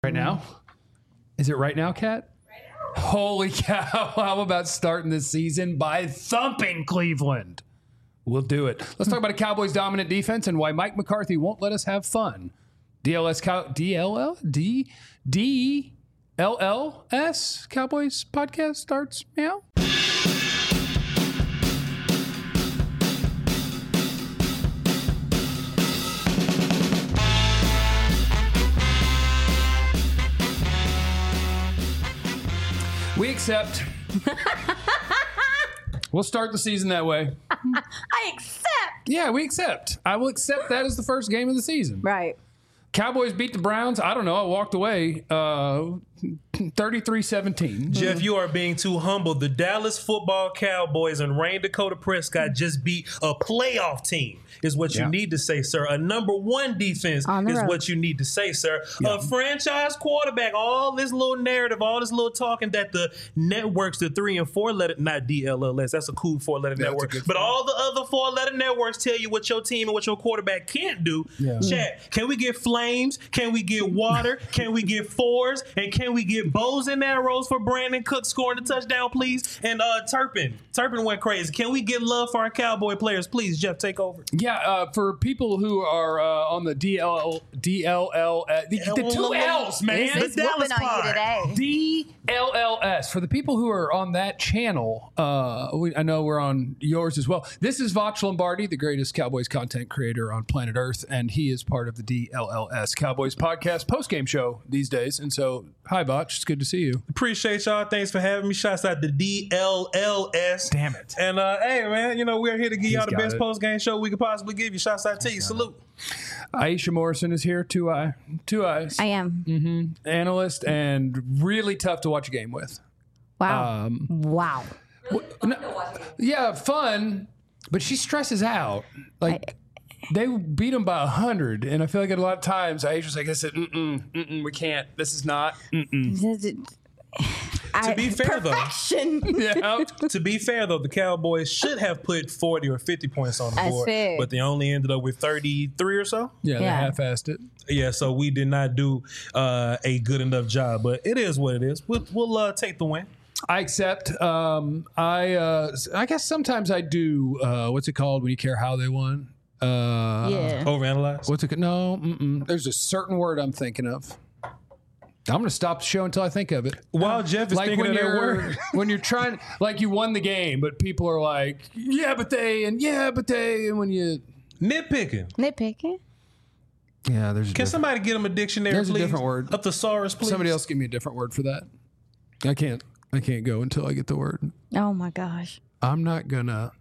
Right now? Is it right now, Kat? Holy cow. How about starting this season by thumping Cleveland? We'll do it. Let's talk about a Cowboys dominant defense and why Mike McCarthy won't let us have fun. DLLS Cowboys podcast starts now. We accept. We'll start the season that way. I accept. Yeah, we accept. I will accept that as the first game of the season. Right. Cowboys beat the Browns. I don't know. I walked away 33-17. Jeff, you are being too humble. The Dallas Football Cowboys and Rain Dakota Prescott just beat a playoff team, is what you need to say, sir. A number one defense is what you need to say, sir. A franchise quarterback, all this little narrative, all this little talking that the networks, the 3 and 4 letter, not DLLS, that's a cool 4-letter network, but all the other 4-letter networks tell you what your team and what your quarterback can't do. Yeah. Chat, can we get flames? Can we get water? Can we get fours? And can we get bows and arrows for Brandon Cook scoring the touchdown, please? And Turpin went crazy. Can we get love for our Cowboy players, please? Jeff, take over. Yeah, for people who are on the DLL, the 2 L's, man. It's whooping on you today. DLLS. For the people who are on that channel, I know we're on yours as well. This is Voch Lombardi, the greatest Cowboys content creator on planet Earth, and he is part of the DLLS Cowboys podcast post-game show these days. And so, hi, Voch. It's good to see you. Appreciate y'all. Thanks for having me. Shouts out to DLLS. Damn it. And, hey, man, we're here to give y'all the best post-game show we could possibly give you. Shouts out to you. Salute. Aisha Morrison is here. Two eyes. I am. Mm-hmm. Analyst and really tough to watch a game with. Wow. Wow. Yeah, fun, but she stresses out. They beat them by 100, and I feel like a lot of times Aisha's like, I said, we can't. This is not. To be fair, though, to be fair though, the Cowboys should have put 40 or 50 points on the board, but they only ended up with 33 or so. Yeah, they half-assed it. Yeah, so we did not do a good enough job, but it is what it is. We'll take the win. I accept. I guess sometimes I do. What's it called when you care how they won? Overanalyze. What's it? No. There's a certain word I'm thinking of. I'm going to stop the show until I think of it. While Jeff is thinking of that word. When you're trying, like you won the game, but people are like, yeah, but they, and when you... Nitpicking? Yeah, there's Can somebody get him a dictionary, there's please? There's a different word. A thesaurus, please. Somebody else give me a different word for that. I can't go until I get the word. Oh, my gosh. I'm not going to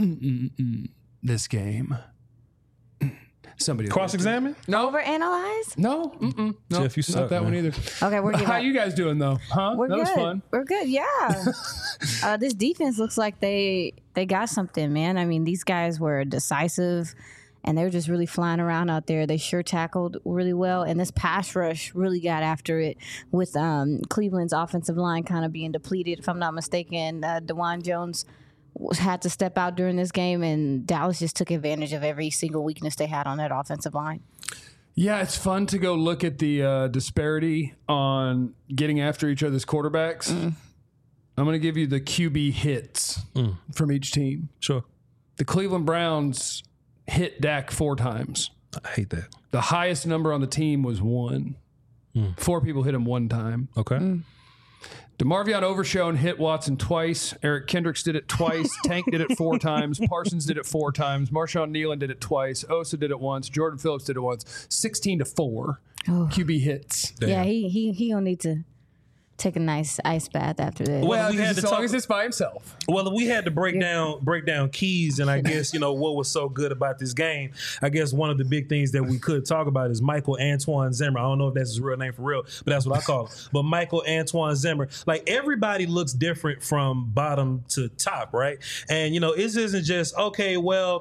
this game. Somebody cross-examine? No. Overanalyze? No. No. Jeff, you suck, not that man. one either. Okay, we're good. How you guys doing though? Huh? We're that good. was fun. We're good. Yeah. This defense looks like they got something, man. I mean, these guys were decisive, and they were just really flying around out there. They sure tackled really well, and this pass rush really got after it with Cleveland's offensive line kind of being depleted. If I'm not mistaken, DeJuan Jones had to step out during this game, and Dallas just took advantage of every single weakness they had on that offensive line. Yeah, it's fun to go look at the disparity on getting after each other's quarterbacks. I'm going to give you the QB hits from each team. Sure. The Cleveland Browns hit Dak 4 times. I hate that. The highest number on the team was 1. 4 people hit him 1 time. Okay. DeMarvion Overshown hit Watson twice. Eric Kendricks did it twice. Tank did it 4 times. Parsons did it 4 times. Marshawn Nealon did it twice. Osa did it once. Jordan Phillips did it once. 16-4 QB hits. Damn. Yeah, he gonna need to take a nice ice bath after this. Well, as long as it's by himself. Well, we had to break down keys, and I guess what was so good about this game. I guess one of the big things that we could talk about is Michael Antoine Zimmer. I don't know if that's his real name for real, but that's what I call him. But Michael Antoine Zimmer, like everybody looks different from bottom to top, right? And this isn't just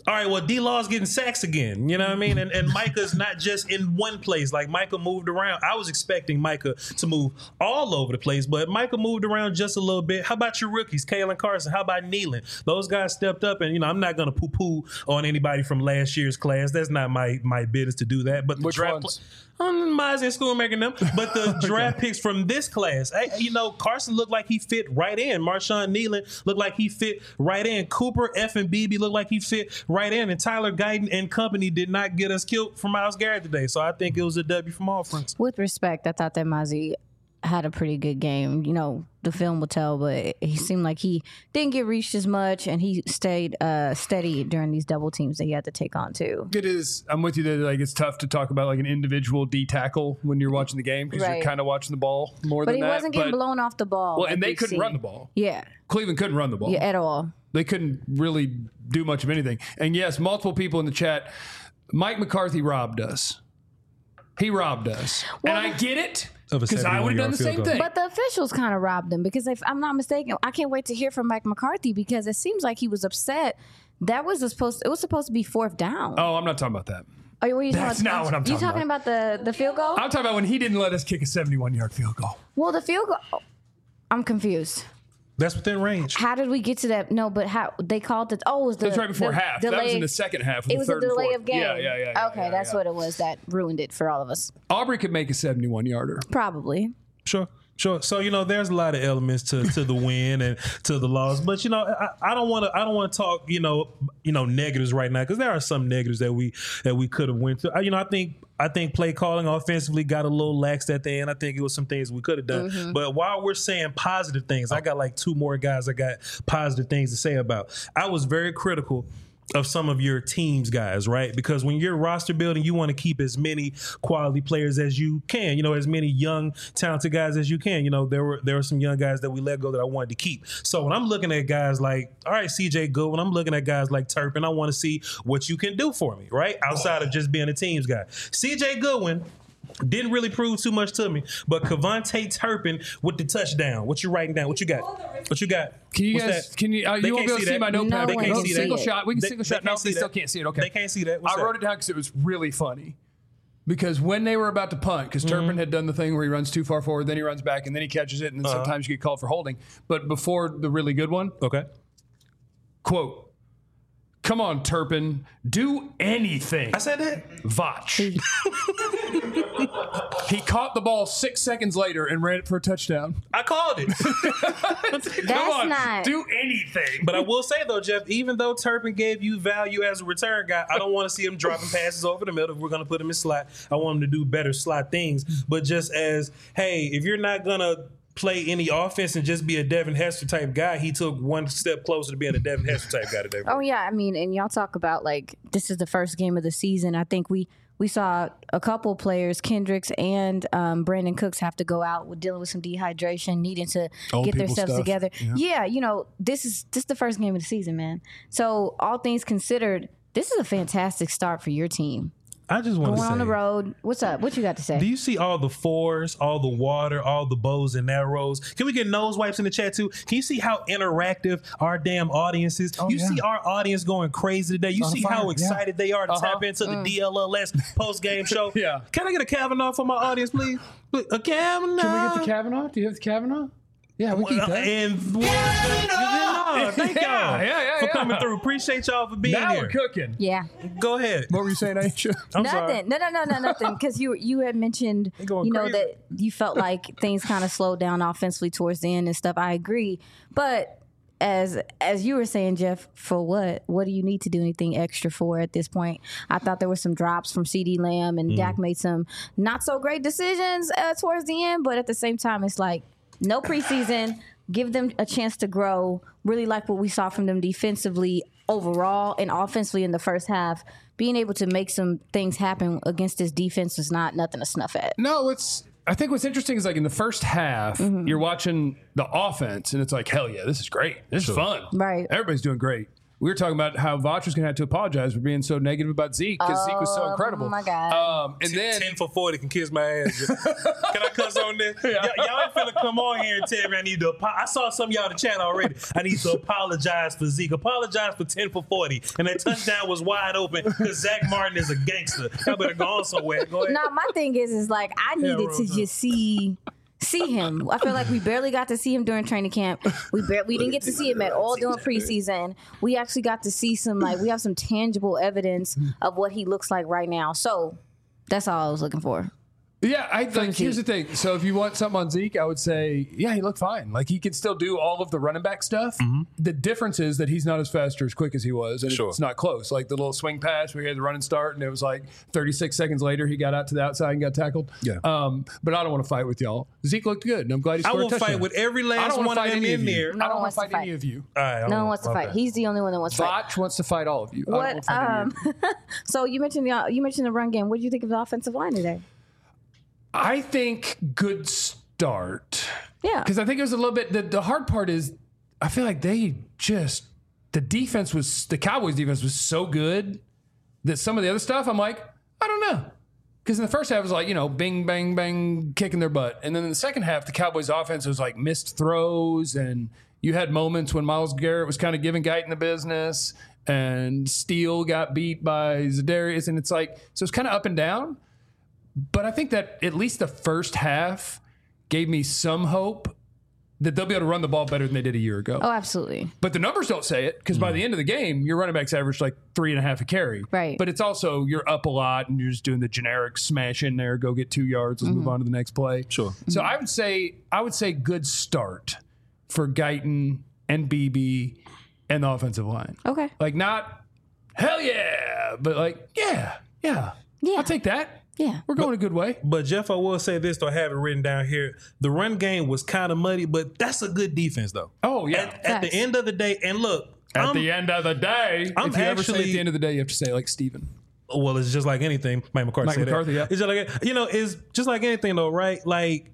all right, well, D-Law's getting sacks again. You know what I mean? And Micah's not just in one place. Like, Micah moved around. I was expecting Micah to move all over the place, but Micah moved around just a little bit. How about your rookies, Kalen Carson? How about Nealon? Those guys stepped up, and, I'm not going to poo-poo on anybody from last year's class. That's not my business to do that. But the Which draft ones? Mize and Schoonmaker them. But the draft picks from this class, Carson looked like he fit right in. Marshawn Nealon looked like he fit right in. Cooper F and BB looked like he fit right in. And Tyler Guyton and company did not get us killed for Myles Garrett today. So I think it was a W from all fronts. With respect, I thought that Mozzie had a pretty good game. The film will tell, but he seemed like he didn't get reached as much, and he stayed steady during these double teams that he had to take on too. It is. I'm with you that it's tough to talk about an individual D tackle when you're watching the game because you're kind of watching the ball more than that. But he wasn't getting blown off the ball. Well, and they couldn't run the ball. Yeah. Cleveland couldn't run the ball. Yeah, at all. They couldn't really do much of anything. And yes, multiple people in the chat, Mike McCarthy robbed us. He robbed us. Well, and I get it. Because I would have done the same thing. But the officials kind of robbed him because if I'm not mistaken, I can't wait to hear from Mike McCarthy because it seems like he was upset. It was supposed to be fourth down. Oh, I'm not talking about that. Oh, That's not what I'm talking about. You talking about the field goal? I'm talking about when he didn't let us kick a 71-yard field goal. Well, the field goal, I'm confused. That's within range. How did we get to that? No, but how they called it? Oh, it was that's right before half. That was in the second half. It was a delay of game. Yeah. Okay, that's what it was that ruined it for all of us. Aubrey could make a 71-yarder. Probably. Sure. So there's a lot of elements to the win and to the loss, but I don't want to talk negatives right now because there are some negatives that we could have went through. I think play calling offensively got a little lax at the end. I think it was some things we could have done. Mm-hmm. But while we're saying positive things, I got two more guys I got positive things to say about. I was very critical of some of your teams guys, right? Because when you're roster building, you want to keep as many quality players as you can, as many young, talented guys as you can. There were some young guys that we let go that I wanted to keep. So when I'm looking at guys like, all right, CJ Goodwin, I'm looking at guys like Turpin, I want to see what you can do for me, right? Outside of just being a teams guy. CJ Goodwin didn't really prove too much to me, but Kevontae Turpin with the touchdown. What you writing down? What you got? Can you guys? Can you? You won't be able to see my notepad. They can't see single shot. We can single shot. No, they still can't see it. Okay, they can't see that. I wrote it down because it was really funny. Because when they were about to punt, because Turpin had done the thing where he runs too far forward, then he runs back, and then he catches it, and then sometimes you get called for holding. But before the really good one, quote. Come on, Turpin. Do anything. I said that. Vach. He caught the ball 6 seconds later and ran it for a touchdown. I called it. Come on, not. do anything. But I will say, though, Jeff, even though Turpin gave you value as a return guy, I don't want to see him dropping passes over the middle. If we're going to put him in slot, I want him to do better slot things. But just as, hey, if you're not going to play any offense and just be a Devin Hester type guy, he took one step closer to being a Devin Hester type guy today. Oh yeah, I mean, and y'all talk about this is the first game of the season. I think we saw a couple players, Kendricks and Brandon Cooks, have to go out with dealing with some dehydration, needing to get their steps together. Yeah, this is the first game of the season, man. So all things considered, this is a fantastic start for your team. I just want to say, on the road. What's up? What you got to say? Do you see all the fours, all the water, all the bows and arrows? Can we get nose wipes in the chat too? Can you see how interactive our damn audience is? You see our audience going crazy today. You see how excited they are to tap into the DLLS post-game show. Can I get a Kavanaugh for my audience, please? A Kavanaugh. Can we get the Kavanaugh? Do you have the Kavanaugh? Yeah, we keep that. And thank y'all for coming through. Appreciate y'all for being here. Now we're cooking. Yeah. Go ahead. What were you saying, Aisha? Nothing. No, nothing. Because you had mentioned, that you felt like things kind of slowed down offensively towards the end and stuff. I agree. But as you were saying, Jeff, for what? What do you need to do anything extra for at this point? I thought there were some drops from CeeDee Lamb, and Dak made some not so great decisions towards the end. But at the same time, it's like, no preseason, give them a chance to grow. Really like what we saw from them defensively overall and offensively in the first half. Being able to make some things happen against this defense is not nothing to snuff at. No, I think what's interesting is in the first half, you're watching the offense and it's like, hell yeah, this is great. This is fun. Right. Everybody's doing great. we were talking about how Voch was going to have to apologize for being so negative about Zeke because Zeke was so incredible. Oh my God. And then 10 for 40 can kiss my ass. Can I cuss on this? Y'all ain't finna come on here and tell me I need to I saw some of y'all in the chat already. I need to apologize for Zeke. Apologize for 10 for 40. And that touchdown was wide open because Zach Martin is a gangster. Y'all better go on somewhere. Go ahead. No, my thing is like I needed to just see him. I feel like we barely got to see him during training camp. We didn't get to see him at all during preseason. We actually got to see we have some tangible evidence of what he looks like right now. So that's all I was looking for. Yeah, here's the thing. So if you want something on Zeke, I would say, yeah, he looked fine. Like he can still do all of the running back stuff. Mm-hmm. The difference is that he's not as fast or as quick as he was, and it's not close. Like the little swing pass where he had the running start, and it was like 36 seconds later he got out to the outside and got tackled. Yeah. But I don't want to fight with y'all. Zeke looked good, and I'm glad he scored a touchdown. I will fight with every last one of them in there. I don't want to fight any of you. No one wants to fight. He's the only one that wants to fight. Voch wants to fight all of you. What? So you mentioned the run game. What did you think of the offensive line today? I think good start. Yeah. Because I think it was a little bit, the hard part is I feel like the Cowboys defense was so good that some of the other stuff, I'm like, I don't know. Because in the first half, it was like, bing, bang, bang, kicking their butt. And then in the second half, the Cowboys offense was like missed throws. And you had moments when Myles Garrett was kind of giving Guyton the business. And Steele got beat by Za'Darius. And it's like, so it's kind of up and down. But I think that at least the first half gave me some hope that they'll be able to run the ball better than they did a year ago. Oh, absolutely. But the numbers don't say it because by the end of the game, your running backs averaged like 3.5 a carry. Right. But it's also you're up a lot and you're just doing the generic smash in there, go get 2 yards, let's move on to the next play. Sure. So I would say good start for Guyton and BB and the offensive line. Okay. Like not hell yeah, but like yeah. I'll take that. Yeah. We're going a good way. But, Jeff, I will say this, though, I have it written down here. The run game was kind of muddy, but that's a good defense, though. Oh, yeah. At the end of the day, and look. At the end of the day, if you ever say at the end of the day, you have to say it like Steven. Well, it's just like anything. Mike McCarthy said that. Yeah. It's just like, it's just like anything, though, right? Like,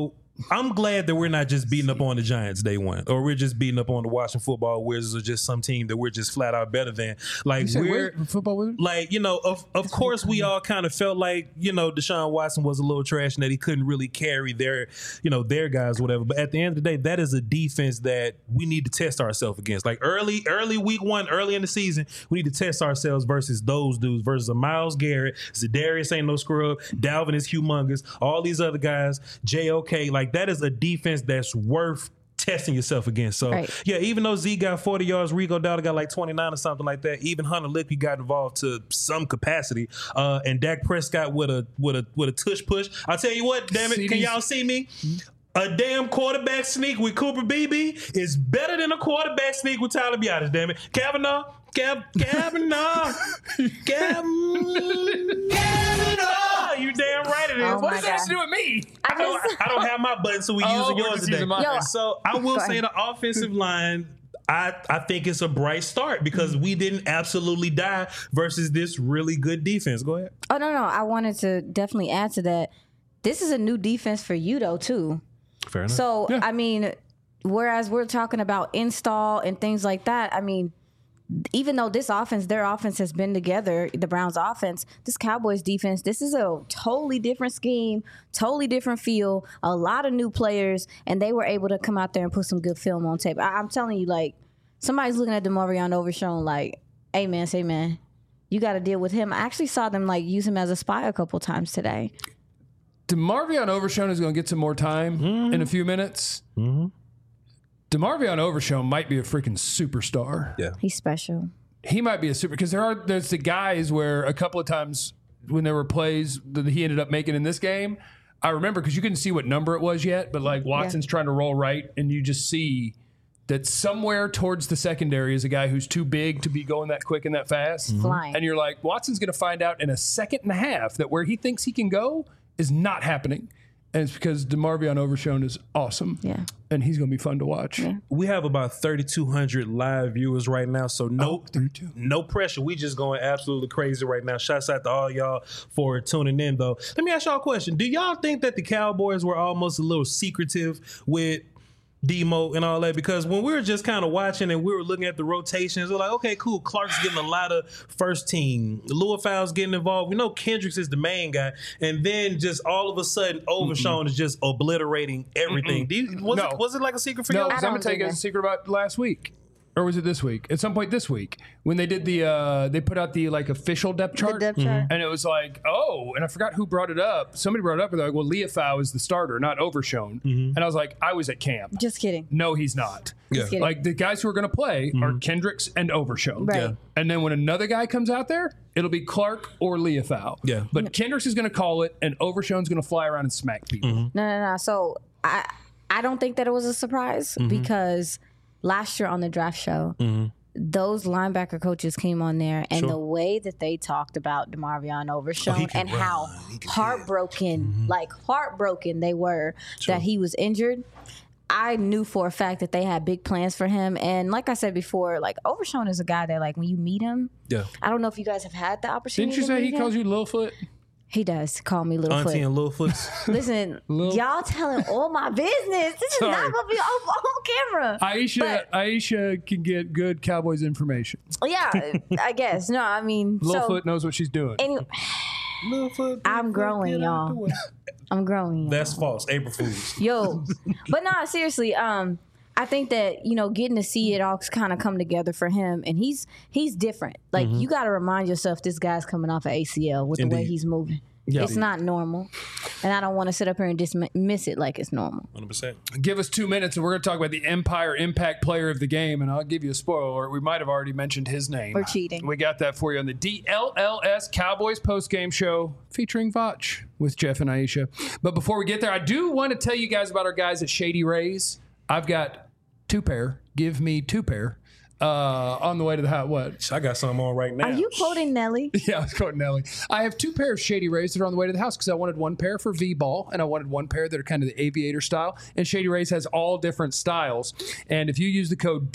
I'm glad that we're not just beating up on the Giants day one, or we're just beating up on the Washington Football Wizards, or just some team that we're just flat out better than. Like football Wizards. Like of course we all kind of felt like Deshaun Watson was a little trash and that he couldn't really carry their guys or whatever. But at the end of the day, that is a defense that we need to test ourselves against. Like early week one, early in the season, we need to test ourselves versus those dudes, versus a Myles Garrett, Za'Darius ain't no scrub, Dalvin is humongous, all these other guys, JOK, like that is a defense that's worth testing yourself against. So, yeah, even though Z got 40 yards, Rico Dowdle got like 29 or something like that, even Hunter Lippy got involved to some capacity, and Dak Prescott with a tush push. I'll tell you what, damn it, can y'all see me? A damn quarterback sneak with Cooper Beebe is better than a quarterback sneak with Tyler Biadasz, damn it. Kavanaugh. You damn right it is. Oh what does that have to do with me? I don't have my button, so we're using yours today. So I will say the offensive line, I think it's a bright start because we didn't absolutely die versus this really good defense. Go ahead. Oh, no. I wanted to definitely add to that. This is a new defense for you, though, too. Fair enough. So, I mean, whereas we're talking about install and things like that, I mean, even though their offense has been together, the Browns offense, this Cowboys defense, this is a totally different scheme, totally different feel, a lot of new players, and they were able to come out there and put some good film on tape. I'm telling you, like, somebody's looking at DeMarvion Overshown like, hey, man, you got to deal with him. I actually saw them, like, use him as a spy a couple times today. DeMarvion Overshown is going to get some more time in a few minutes. Mm-hmm. DeMarvion Overshown might be a freaking superstar. Yeah, he's special. He might be a super because there's the guys where a couple of times when there were plays that he ended up making in this game, I remember because you couldn't see what number it was yet, but like Watson's trying to roll right, and you just see that somewhere towards the secondary is a guy who's too big to be going that quick and that fast, flying, and you're like, Watson's going to find out in a second and a half that where he thinks he can go is not happening. And it's because DeMarvion Overshown is awesome. Yeah. And he's going to be fun to watch. Yeah. We have about 3,200 live viewers right now. So no pressure. We just going absolutely crazy right now. Shouts out to all y'all for tuning in, though. Let me ask y'all a question. Do y'all think that the Cowboys were almost a little secretive with Demo and all that, because when we were just kind of watching and we were looking at the rotations, we're like, okay, cool. Clark's getting a lot of first team. Louisville's getting involved. We know Kendricks is the main guy, and then just all of a sudden, Overshown is just obliterating everything. Was it like a secret for you? No, I'm gonna tell you guys a secret about last week. Or was it this week? At some point this week, when they did they put out the like official depth chart, and it was like, and I forgot who brought it up. Somebody brought it up, and they're like, well, Leofau is the starter, not Overshown. And I was like, I was at camp. Just kidding. No, he's not. Just kidding. Like the guys who are going to play are Kendricks and Overshown. Right. Yeah. And then when another guy comes out there, it'll be Clark or Leofau. Yeah. But Kendricks is going to call it, and Overshown's going to fly around and smack people. No. So I don't think that it was a surprise because last year on the draft show, those linebacker coaches came on there, and the way that they talked about DeMarvion Overshown and how heartbroken they were that he was injured, I knew for a fact that they had big plans for him. And like I said before, like Overshown is a guy that like when you meet him, I don't know if you guys have had the opportunity. Didn't you say he him. calls you Littlefoot? He does call me Littlefoot. Auntie and Littlefoot. Listen, y'all telling all my business. This is not going to be on camera. Aisha can get good Cowboys information. Yeah, I guess. No, I mean, Littlefoot knows what she's doing. Anyway, I'm growing, y'all. I'm growing. That's false. April Fools. Yo, but no, seriously. I think that getting to see it all kind of come together for him, and he's different. Like you got to remind yourself, this guy's coming off of ACL with the way he's moving. Yeah. It's not normal, and I don't want to sit up here and dismiss it like it's normal. 100%. Give us 2 minutes, and we're going to talk about the Empire Impact Player of the Game, and I'll give you a spoiler. We might have already mentioned his name. We're cheating. We got that for you on the DLLS Cowboys postgame show featuring Vach with Jeff and Aisha. But before we get there, I do want to tell you guys about our guys at Shady Rays. I've got 2 pair. Give me 2 pair. On the way to the house. What? I got some on right now. Are you quoting Nelly? Yeah, I was quoting Nelly. I have 2 pair of Shady Rays that are on the way to the house because I wanted 1 pair for V-ball and I wanted 1 pair that are kind of the aviator style. And Shady Rays has all different styles. And if you use the code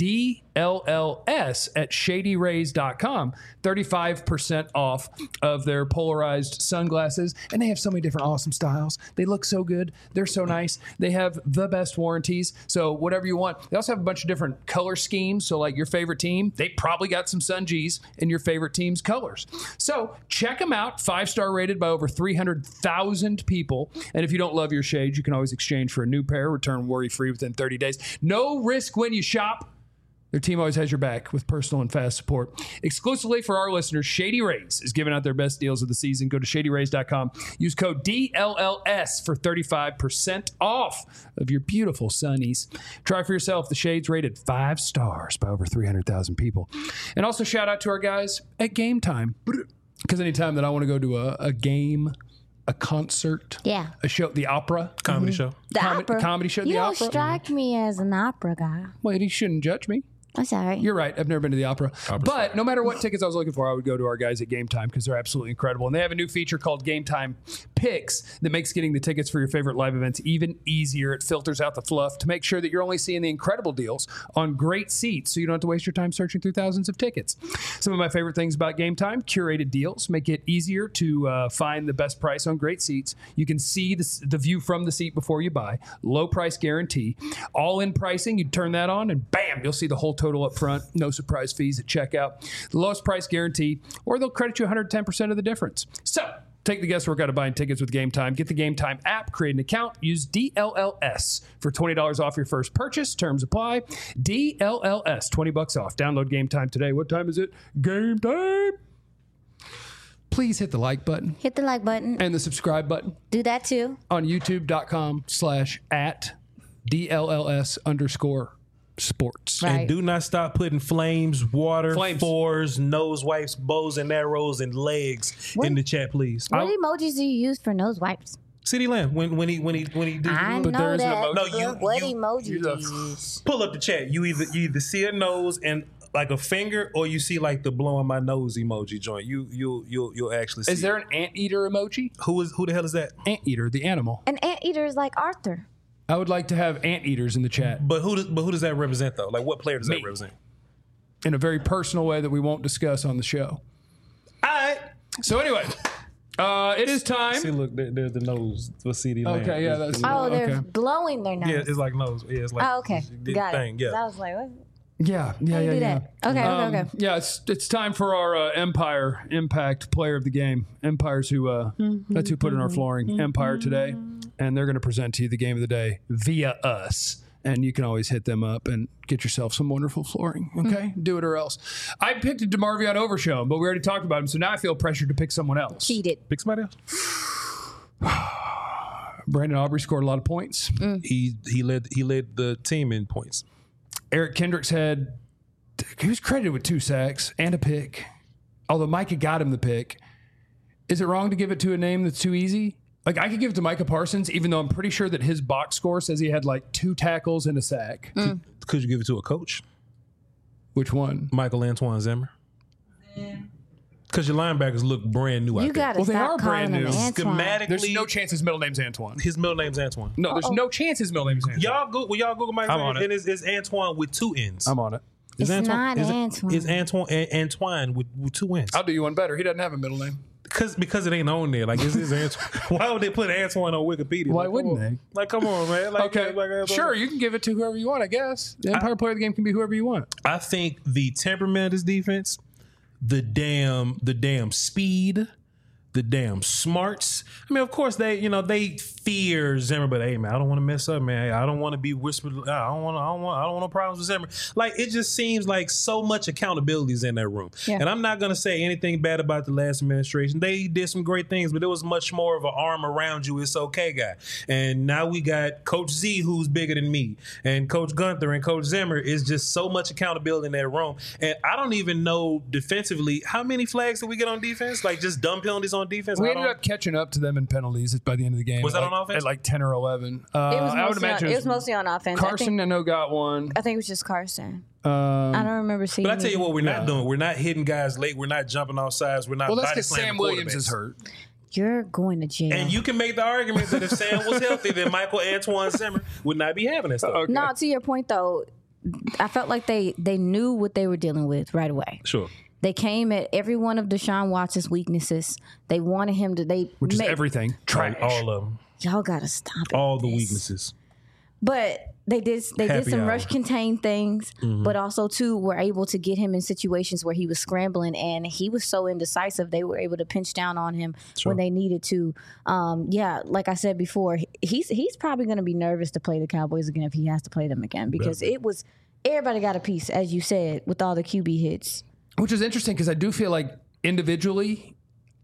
DLLS at shadyrays.com, 35% off of their polarized sunglasses. And they have so many different awesome styles. They look so good. They're so nice. They have the best warranties. So whatever you want. They also have a bunch of different color schemes. So like your favorite team, they probably got some Sun G's in your favorite team's colors. So check them out. 5-star rated by over 300,000 people. And if you don't love your shades, you can always exchange for a new pair, return worry-free within 30 days. No risk when you shop. Their team always has your back with personal and fast support. Exclusively for our listeners, Shady Rays is giving out their best deals of the season. Go to shadyrays.com. Use code DLLS for 35% off of your beautiful sunnies. Try for yourself. The shades rated 5 stars by over 300,000 people. And also shout out to our guys at Game Time. Because anytime that I want to go to a game, a concert, a show, the opera, comedy show, comedy show, you the don't opera. strike me as an opera guy. Well, you shouldn't judge me. I'm sorry. You're right. I've never been to the opera. But no matter what tickets I was looking for, I would go to our guys at Game Time because they're absolutely incredible. And they have a new feature called Game Time Picks that makes getting the tickets for your favorite live events even easier. It filters out the fluff to make sure that you're only seeing the incredible deals on great seats so you don't have to waste your time searching through thousands of tickets. Some of my favorite things about Game Time, curated deals make it easier to find the best price on great seats. You can see the view from the seat before you buy. Low price guarantee. All-in pricing, you turn that on and bam, you'll see the whole total up front. No surprise fees at checkout. The lowest price guarantee, or they'll credit you 110% of the difference. So take the guesswork out of buying tickets with Game Time. Get the Game Time app, create an account, use DLLS for $20 off your first purchase. Terms apply. DLLS, $20 off. Download Game Time today. What time is it? Game time. Please hit the like button. Hit the like button. And the subscribe button. Do that too. On youtube.com/@DLLS_sports. Right. And do not stop putting flames, water, fours, nose wipes, bows and arrows, and legs in the chat, please. What emojis do you use for nose wipes? CeeDee Lamb, when he do I but know there is an that. emoji. No, what emoji do you use? Pull up the chat. You either see a nose and like a finger, or you see like the blowing my nose emoji joint. You'll actually see. Is there an anteater emoji? Who the hell is that? Anteater, the animal. An anteater is like Arthur. I would like to have anteaters in the chat. But who does that represent though? Like what player does that represent? In a very personal way that we won't discuss on the show. All right. So anyway, It is time. See, look, there's the nose for CeeDee Lamb. Okay, yeah, that's they're blowing their nose. Yeah, it's like nose. Yeah, it's like okay, got thing. it. Yeah. I was like, what? Yeah. Okay. Yeah, it's time for our Empire Impact Player of the Game. Empires who that's who put in our flooring. Empire today, and they're going to present to you the game of the day via us. And you can always hit them up and get yourself some wonderful flooring. Okay, do it or else. I picked DeMarvion Overshown, but we already talked about him, so now I feel pressured to pick someone else. Cheated. Pick somebody else. Brandon Aubrey scored a lot of points. He led the team in points. Eric Kendricks he was credited with 2 sacks and a pick, although Micah got him the pick. Is it wrong to give it to a name that's too easy? Like, I could give it to Micah Parsons, even though I'm pretty sure that his box score says he had like 2 tackles and a sack. Could you give it to a coach? Which one? Michael Antoine Zimmer. Because your linebackers look brand new out there. You got to they are stop brand calling him new. Antoine. Schematically, There's no chance his middle name's Antoine. his middle name's Antoine. No, there's no chance his middle name's Antoine. Y'all Google Mike I'm on and it. it's Antoine with 2 N's. I'm on it. It's not Antoine. It's Antoine with 2 N's. I'll do you one better. He doesn't have a middle name. Because it ain't on there. Like, it's Antoine. Why would they put Antoine on Wikipedia? Why Like, wouldn't come on. they? Like, come on, man. Like, Okay, sure, you can give it to whoever you want, I guess. The Empire Player of the Game can be whoever you want. I think the temperament of this defense, the damn speed, the damn smarts. I mean, of course they fear Zimmer, but hey, man, I don't want to mess up, man. I don't want to be whispered. I don't want no problems with Zimmer. Like, it just seems like so much accountability is in that room. Yeah. And I'm not gonna say anything bad about the last administration. They did some great things, but it was much more of an arm around you. It's okay, guy. And now we got Coach Z, who's bigger than me, and Coach Gunther and Coach Zimmer. Is just so much accountability in that room. And I don't even know defensively how many flags did we get on defense? Like, just dumb penalties on defense. We ended up catching up to them in penalties by the end of the game. Was that on offense? At like 10 or 11. It was mostly on offense. Carson, I know, got one. I think it was just Carson. I don't remember seeing. But I tell you what, we're not doing. We're not hitting guys late. We're not jumping off sides. We're not. Well, that's body because slamming Sam Williams is quarterbacks. hurt. You're going to jail. And you can make the argument that if Sam was healthy, then Michael Antoine Zimmer would not be having that stuff. Okay. No, to your point though, I felt like they knew what they were dealing with right away. Sure. They came at every one of Deshaun Watson's weaknesses. They wanted him to. Which is everything. Trash. All of them. Y'all gotta stop it. All the with this. weaknesses. But they did some hour. rush contain things, but also too were able to get him in situations where he was scrambling and he was so indecisive. They were able to pinch down on him when they needed to. Like I said before, he's probably going to be nervous to play the Cowboys again if he has to play them again because everybody got a piece, as you said, with all the QB hits. Which is interesting because I do feel like individually,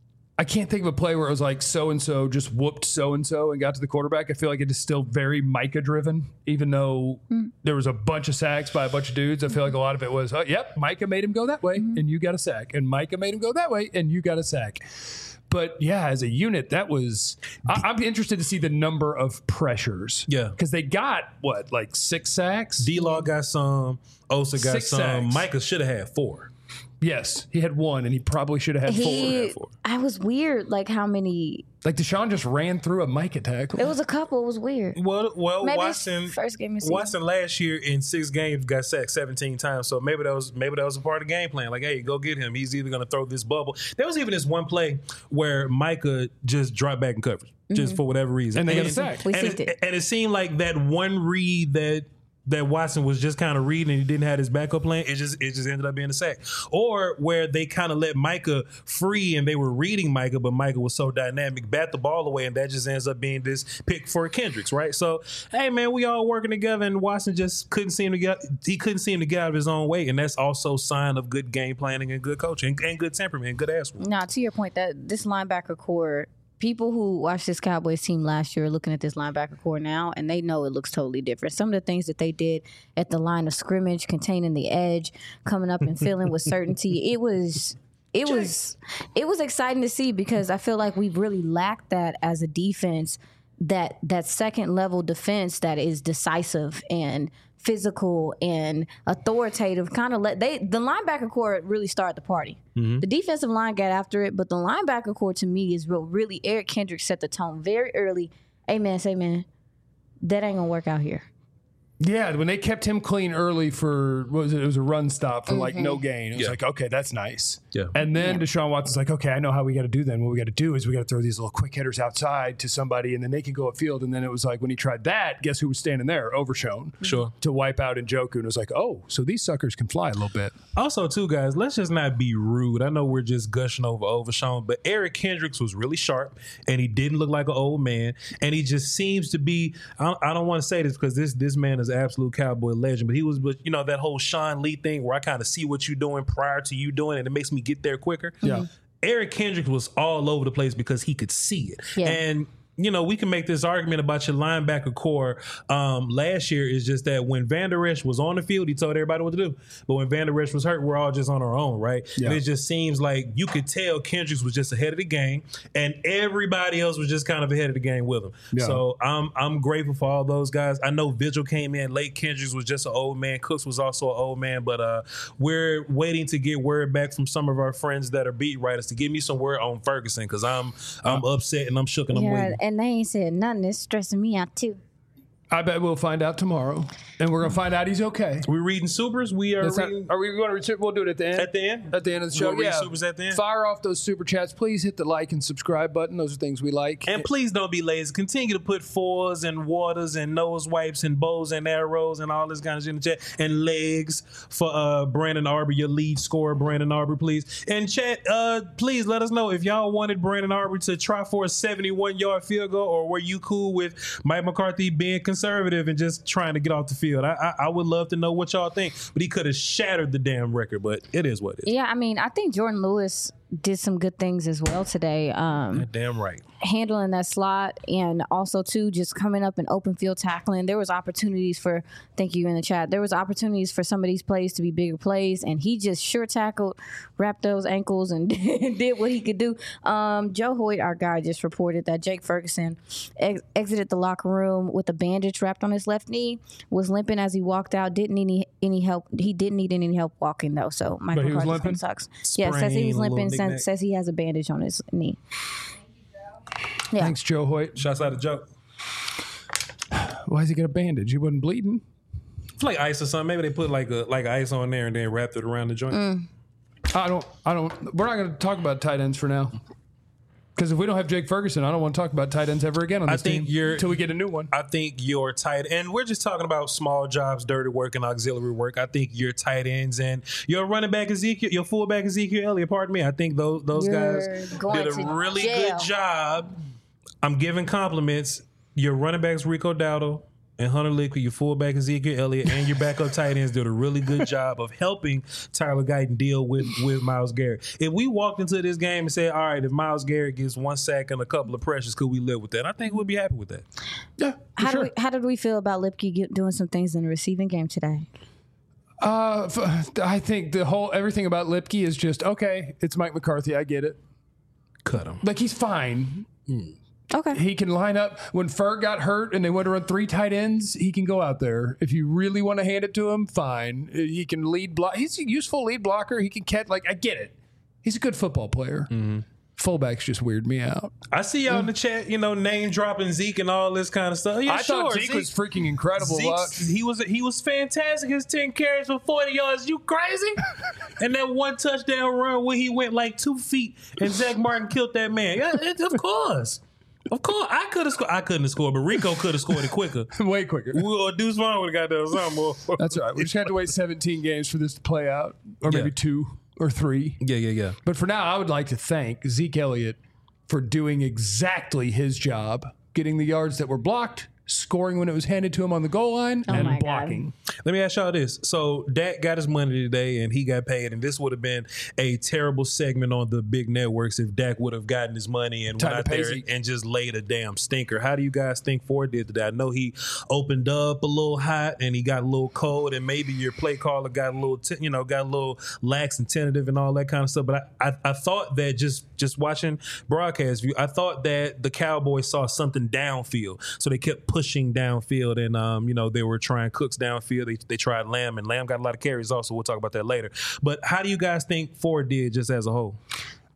I can't think of a play where it was like so-and-so just whooped so-and-so and got to the quarterback. I feel like it is still very Micah-driven, even though there was a bunch of sacks by a bunch of dudes. I feel like a lot of it was, Micah made him go that way, and you got a sack. And Micah made him go that way, and you got a sack. But, yeah, as a unit, that was – I'm interested to see the number of pressures. Yeah. Because they got, 6 sacks? D-Law got some. Osa got 6 some. sacks. Micah should have had 4. Yes, he had 1, and he probably should have had 4. I was weird, like how many. Like Deshaun just ran through a Micah tackle. It was a couple. It was weird. Well, Maybe Watson. first game of season. Watson last year in 6 games got sacked 17 times. So maybe that was a part of the game plan. Like, hey, go get him. He's either going to throw this bubble. There was even this one play where Micah just dropped back in coverage just for whatever reason, and they got a sack. We synced it. And it seemed like that one read that Watson was just kind of reading and he didn't have his backup plan, it just ended up being a sack. Or where they kind of let Micah free and they were reading Micah, but Micah was so dynamic, bat the ball away, and that just ends up being this pick for Kendricks, right? So, hey man, we all working together, and Watson just couldn't seem to get out of his own way, and that's also a sign of good game planning and good coaching and good temperament and good ass work. Now, to your point, that this linebacker core, people who watched this Cowboys team last year are looking at this linebacker core now, and they know it looks totally different. Some of the things that they did at the line of scrimmage, containing the edge, coming up and filling with certainty, it was exciting to see because I feel like we've really lacked that as a defense, that second level defense that is decisive and physical and authoritative. The linebacker core really started the party. The defensive line got after it, but the linebacker core to me is really Eric Kendricks set the tone very early. Hey man, that ain't gonna work out here. Yeah, when they kept him clean early for, what was it? It was a run stop for like no gain. It was like, okay, that's nice. Yeah. And then Deshaun Watson's like, okay, I know how we got to do then. What we got to do is we got to throw these little quick hitters outside to somebody, and then they can go upfield. And then it was like, when he tried that, guess who was standing there? Overshown. Sure. To wipe out Njoku. And it was like, oh, so these suckers can fly a little bit. Also, too, guys, let's just not be rude. I know we're just gushing over Overshown, but Eric Kendricks was really sharp, and he didn't look like an old man. And he just seems to be, I don't want to say this because this man is an absolute Cowboy legend, but he was, you know, that whole Sean Lee thing where I kind of see what you're doing prior to you doing it, and it makes me get there quicker. Yeah. Eric Kendricks was all over the place because he could see it. Yeah. And you know, we can make this argument about your linebacker core. Last year is just that when Van Der Esch was on the field, he told everybody what to do. But when Van Der Esch was hurt, we're all just on our own, right? Yeah. And it just seems like you could tell Kendricks was just ahead of the game, and everybody else was just kind of ahead of the game with him. Yeah. So I'm grateful for all those guys. I know Vigil came in late. Kendricks was just an old man. Cooks was also an old man. But we're waiting to get word back from some of our friends that are beat writers to give me some word on Ferguson, because I'm upset and I'm shook and I'm waiting. And they ain't said nothing. It's stressing me out too. I bet we'll find out tomorrow, and we're gonna find out he's okay. We're reading supers. We are reading. Are we going to? We'll do it at the end. At the end? At the end of the show. We'll read supers at the end. Fire off those super chats. Please hit the like and subscribe button. Those are things we like. And please don't be lazy. Continue to put fours and waters and nose wipes and bows and arrows and all this kind of shit in the chat. And legs for Brandon Arbor, your lead scorer, Brandon Arbor, please. And chat, please let us know if y'all wanted Brandon Arbor to try for a 71-yard field goal, or were you cool with Mike McCarthy being conservative and just trying to get off the field. I would love to know what y'all think, but he could have shattered the damn record, but it is what it is. Yeah, I mean, I think Jordan Lewis did some good things as well today. Damn right. Handling that slot, and also too just coming up and open field tackling. There was opportunities for, thank you in the chat, there was opportunities for some of these plays to be bigger plays, and he just sure tackled, wrapped those ankles, and did what he could do. Joe Hoyt, our guy, just reported that Jake Ferguson exited the locker room with a bandage wrapped on his left knee, was limping as he walked out, didn't need any help. He didn't need any help walking though, so Michael McCarthy sucks. Yeah, says he was limping, says he has a bandage on his knee. Yeah. Thanks, Joe Hoyt. Shouts out to Joe. Why does he get a bandage? He wasn't bleeding. It's like ice or something. Maybe they put like ice on there and then wrapped it around the joint. I don't. We're not going to talk about tight ends for now. Because if we don't have Jake Ferguson, I don't want to talk about tight ends ever again on this team until we get a new one. I think your tight end, we're just talking about small jobs, dirty work, and auxiliary work. I think your tight ends and your running back Ezekiel, your fullback Ezekiel Elliott, pardon me, I think those guys did a really good job. I'm giving compliments. Your running backs Rico Dowdle and Hunter Liquid, your fullback Ezekiel Elliott, and your backup tight ends did a really good job of helping Tyler Guyton deal with Myles Garrett. If we walked into this game and said, all right, if Myles Garrett gets 1 sack and a couple of pressures, could we live with that? I think we'd be happy with that. Yeah, How did we feel about Lipke doing some things in the receiving game today? I think everything about Lipke is just, okay, it's Mike McCarthy. I get it. Cut him. Like, he's fine. Okay. He can line up. When Ferg got hurt and they went to run 3 tight ends, he can go out there. If you really want to hand it to him, fine. He can lead block. He's a useful lead blocker. He can catch. Like, I get it. He's a good football player. Mm-hmm. Fullbacks just weird me out. I see y'all in the chat, name dropping Zeke and all this kind of stuff. Yeah, I thought Zeke was freaking incredible. He was fantastic. His 10 carries for 40 yards. You crazy? And that one touchdown run where he went like 2 feet and Zach Martin killed that man. Yeah, of course. Of course, I could have scored. I couldn't have scored, but Rico could have scored it quicker. Way quicker. Or Deuce Vaughn would have got there something more. That's all right. We just had to wait 17 games for this to play out, or maybe 2 or 3. Yeah. But for now, I would like to thank Zeke Elliott for doing exactly his job, getting the yards that were blocked, scoring when it was handed to him on the goal line, and blocking. Let me ask y'all this. So Dak got his money today and he got paid, and this would have been a terrible segment on the big networks if Dak would have gotten his money and went out there and just laid a damn stinker. How do you guys think Ford did today? I know he opened up a little hot and he got a little cold, and maybe your play caller got a little lax and tentative and all that kind of stuff. But I thought that just watching broadcast view, I thought that the Cowboys saw something downfield, so they kept pushing downfield, and they were trying Cooks downfield. They tried Lamb, and Lamb got a lot of carries also. We'll talk about that later. But how do you guys think Ford did just as a whole?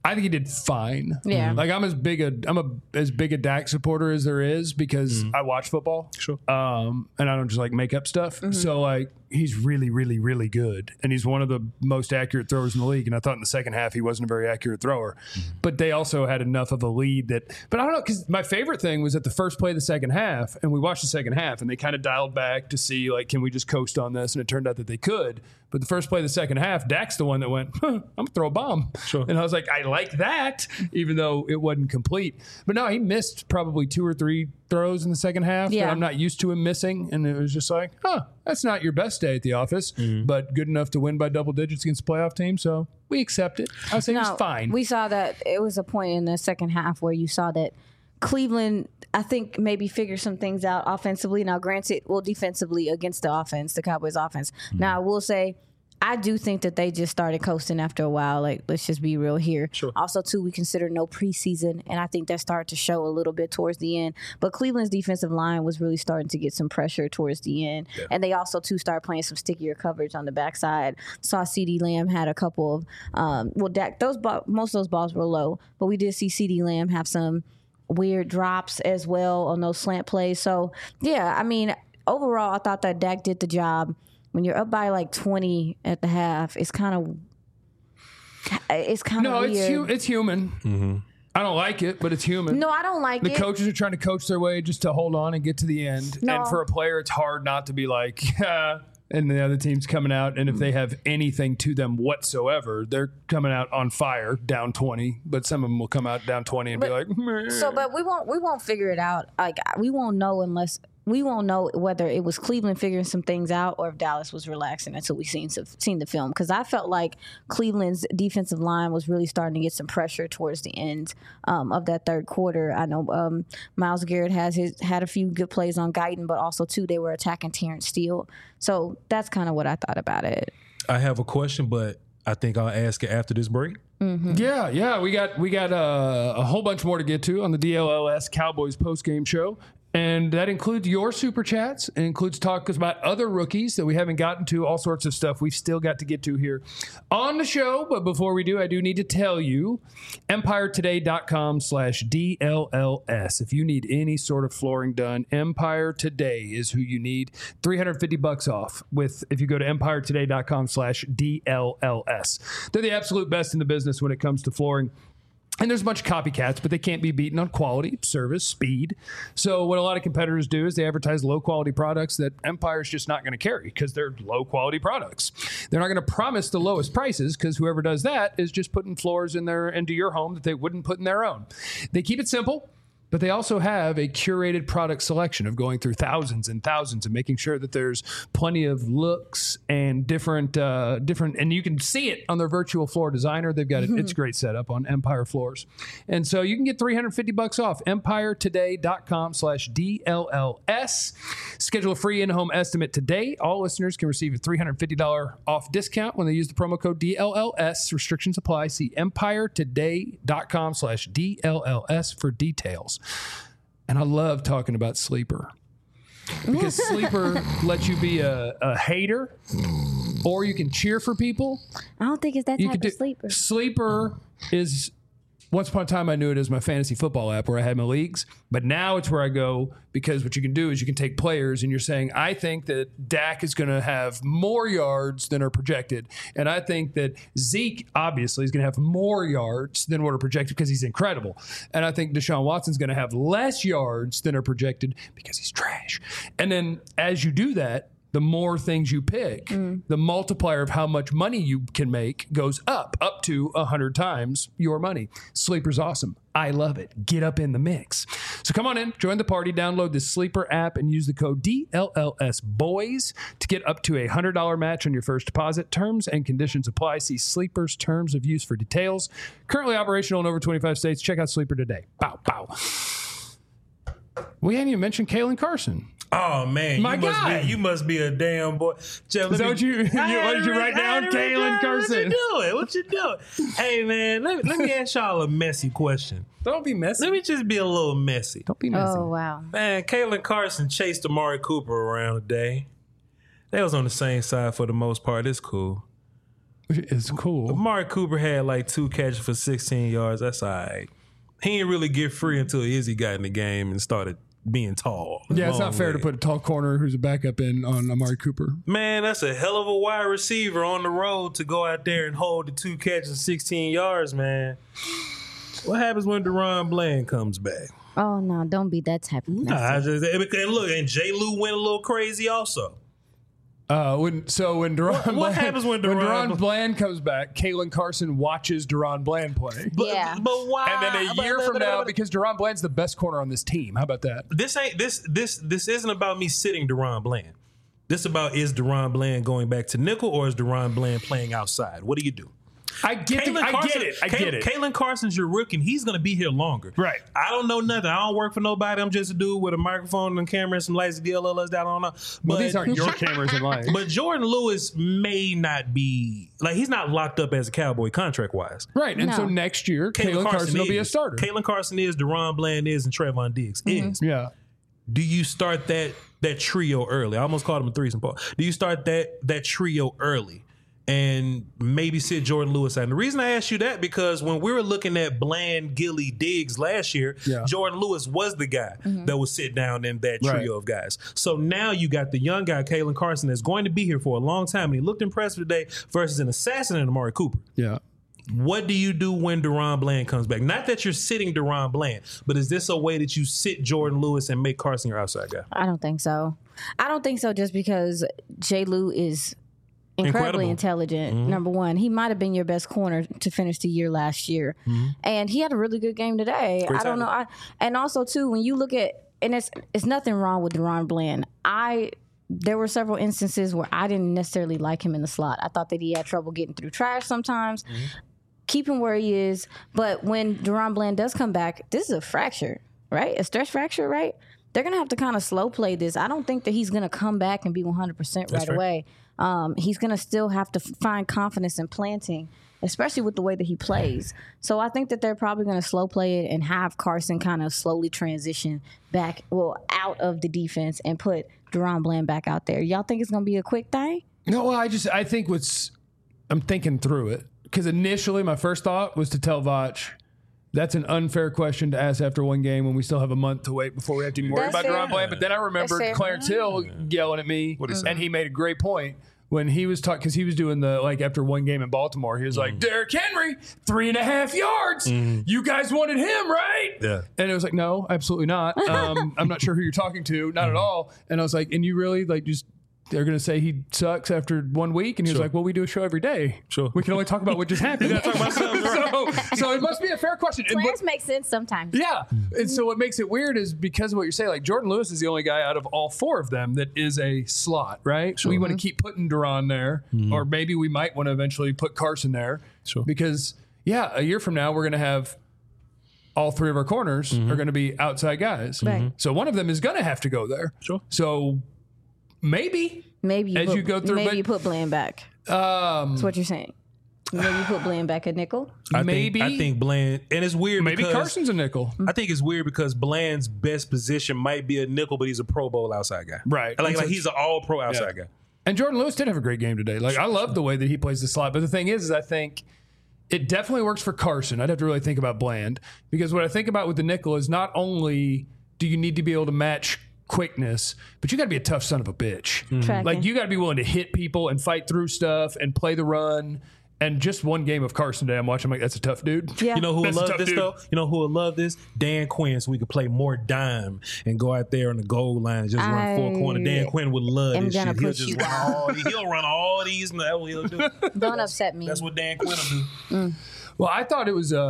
I think he did fine. Yeah. Like I'm as big a Dak supporter as there is because I watch football. Sure. And I don't just like make up stuff. So like he's really, really, really good. And he's one of the most accurate throwers in the league. And I thought in the second half he wasn't a very accurate thrower. But they also had enough of a lead but I don't know, because my favorite thing was at the first play of the second half, and we watched the second half, and they kind of dialed back to see, like, can we just coast on this? And it turned out that they could. But the first play of the second half, Dak's the one that went, I'm going to throw a bomb. Sure. And I was like, I like that, even though it wasn't complete. But no, he missed probably 2 or 3 throws in the second half that I'm not used to him missing. And it was just like, that's not your best day at the office, but good enough to win by double digits against a playoff team. So we accept it. I was saying it's fine. We saw that it was a point in the second half where you saw that Cleveland, I think, maybe figured some things out offensively. Now, granted, defensively against the offense, the Cowboys offense. Now, I will say, I do think that they just started coasting after a while. Like, let's just be real here. Sure. Also, too, we consider no preseason, and I think that started to show a little bit towards the end. But Cleveland's defensive line was really starting to get some pressure towards the end. Yeah. And they also, too, started playing some stickier coverage on the backside. Saw CeeDee Lamb had a couple of, Dak, most of those balls were low, but we did see CeeDee Lamb have some weird drops as well on those slant plays. So, yeah, I mean, overall, I thought that Dak did the job. When you're up by like 20 at the half, it's kind of weird. It's human. I don't like it, but it's human. No, I don't like it. The coaches are trying to coach their way just to hold on and get to the end. No. And for a player, it's hard not to be like, and the other team's coming out, and if they have anything to them whatsoever, they're coming out on fire, down 20. But some of them will come out down 20 and be like, meh. But we won't figure it out. Like, we won't know whether it was Cleveland figuring some things out or if Dallas was relaxing until we seen the film. Because I felt like Cleveland's defensive line was really starting to get some pressure towards the end of that third quarter. I know Myles Garrett had a few good plays on Guyton, but also too they were attacking Terrence Steele. So that's kind of what I thought about it. I have a question, but I think I'll ask it after this break. Mm-hmm. Yeah, we got a whole bunch more to get to on the DLLS Cowboys postgame show. And that includes your super chats. It includes talk about other rookies that we haven't gotten to, all sorts of stuff we've still got to get to here on the show. But before we do, I do need to tell you, EmpireToday.com/DLLS. If you need any sort of flooring done, Empire Today is who you need. $350 off if you go to EmpireToday.com/DLLS. They're the absolute best in the business when it comes to flooring. And there's a bunch of copycats, but they can't be beaten on quality, service, speed. So what a lot of competitors do is they advertise low-quality products that Empire's just not going to carry because they're low-quality products. They're not going to promise the lowest prices because whoever does that is just putting floors into your home that they wouldn't put in their own. They keep it simple. But they also have a curated product selection of going through thousands and thousands and making sure that there's plenty of looks and different, and you can see it on their virtual floor designer. They've got it's a great setup on Empire floors. And so you can get $350 off, EmpireToday.com/DLLS. Schedule a free in-home estimate today. All listeners can receive a $350 off discount when they use the promo code DLLS. Restrictions apply. See EmpireToday.com/DLLS for details. And I love talking about Sleeper because Sleeper lets you be a hater or you can cheer for people. I don't think it's that type of Sleeper. Sleeper is, once upon a time I knew it as my fantasy football app where I had my leagues, but now it's where I go because what you can do is you can take players and you're saying, I think that Dak is going to have more yards than are projected. And I think that Zeke obviously is going to have more yards than what are projected because he's incredible. And I think Deshaun Watson's going to have less yards than are projected because he's trash. And then as you do that, the more things you pick, the multiplier of how much money you can make goes up to 100 times your money. Sleeper's awesome. I love it. Get up in the mix. So come on in, join the party, download the Sleeper app, and use the code DLLSBOYS to get up to a $100 match on your first deposit. Terms and conditions apply. See Sleeper's terms of use for details. Currently operational in over 25 states. Check out Sleeper today. Bow, bow. We hadn't even mentioned Kalen Carson. Oh man, you must be a damn boy. Jeff, is that what you write down? Kalen Carson. What you doing? Hey man, let me ask y'all a messy question. Don't be messy. Let me just be a little messy. Don't be messy. Oh wow. Man, Kalen Carson chased Amari Cooper around today. They was on the same side for the most part. It's cool. is cool. Amari Cooper had like 2 catches for 16 yards. That's all right. He didn't really get free until Izzy got in the game and started being tall. Yeah, it's not fair to put a tall corner who's a backup in on Amari Cooper. Man, that's a hell of a wide receiver on the road to go out there and hold the 2 catches, 16 yards, man. What happens when Deron Bland comes back? Oh, no, don't be that type of message. And look, and J. Lou went a little crazy also. When Deron happens when Deron Bland comes back, Kalen Carson watches Deron Bland play. But why? And then a year from now, because Deron Bland's the best corner on this team. How about that? This isn't about me sitting Deron Bland. This is Deron Bland going back to nickel, or is Deron Bland playing outside? What do you do? I get it. Kalen Carson's your rookie, and he's going to be here longer. Right. I don't know nothing. I don't work for nobody. I'm just a dude with a microphone and a camera and some lights to DLLs down. I don't know. Well, these aren't your cameras and lights. But Jordan Lewis may not be, like, he's not locked up as a Cowboy contract-wise. Right. And so next year, Kalen Carson will be a starter. Kalen Carson is, Deron Bland is, and Trevon Diggs is. Yeah. Do you start that trio early? I almost called him a threesome. Do you start that trio early and maybe sit Jordan Lewis out? And the reason I asked you that, because when we were looking at Bland, Gilly, Diggs last year, Jordan Lewis was the guy that would sit down in that trio of guys. So now you got the young guy, Kalen Carson, that's going to be here for a long time, and he looked impressive today versus an assassin in Amari Cooper. Yeah. What do you do when Deron Bland comes back? Not that you're sitting Deron Bland, but is this a way that you sit Jordan Lewis and make Carson your outside guy? I don't think so. Just because J. Lou is incredibly intelligent. Number one, he might have been your best corner to finish the year last year, and he had a really good game today. I don't know. And also too, when you look at, and it's nothing wrong with Deron Bland. There were several instances where I didn't necessarily like him in the slot. I thought that he had trouble getting through trash sometimes. Keep him where he is. But when Deron Bland does come back, this is a fracture, right? A stress fracture, right? They're going to have to kind of slow play this. I don't think that he's going to come back and be 100% right away. He's going to still have to find confidence in planting, especially with the way that he plays. So I think that they're probably going to slow play it and have Carson kind of slowly transition back, out of the defense and put Deron Bland back out there. Y'all think it's going to be a quick thing? No, I think I'm thinking through it. Because initially my first thought was to tell Vach, that's an unfair question to ask after one game when we still have a month to wait before we have to even worry about Deron Bland. But then I remembered Clarence Hill yelling at me, and he made a great point when he was talking, because he was doing after one game in Baltimore, he was like, Derrick Henry, 3.5 yards. You guys wanted him, right? Yeah. And it was like, no, absolutely not. I'm not sure who you're talking to, not at all. And I was like, and you really they're going to say he sucks after 1 week? And he was like, well, we do a show every day. Sure. We can only talk about what just happened. So it must be a fair question. Plans make sense sometimes. Yeah. And so what makes it weird is because of what you're saying, like Jordan Lewis is the only guy out of all 4 of them that is a slot, right? Sure. We want to keep putting Deron there, or maybe we might want to eventually put Carson there. Sure. Because, a year from now, we're going to have all 3 of our corners are going to be outside guys. Right. So one of them is going to have to go there. Sure. So maybe you put Bland back. That's what you're saying. Maybe you put Bland back at nickel. I think Bland, and it's weird. Maybe Carson's a nickel. I think it's weird because Bland's best position might be a nickel, but he's a Pro Bowl outside guy. Right. Like he's an All Pro outside guy. And Jordan Lewis did have a great game today. Like I love the way that he plays the slot. But the thing is I think it definitely works for Carson. I'd have to really think about Bland, because what I think about with the nickel is not only do you need to be able to match quickness, but you got to be a tough son of a bitch. Like you got to be willing to hit people and fight through stuff and play the run. And just one game of Carson today, I'm watching, I'm like, that's a tough dude. Yeah. You know who would love this, though? You know who would love this? Dan Quinn, so we could play more dime and go out there on the goal line and just run 4 corner. Dan Quinn would love this shit. He'll run all these, and that's what he'll do. Don't upset me. That's what Dan Quinn will do. Well, I thought it was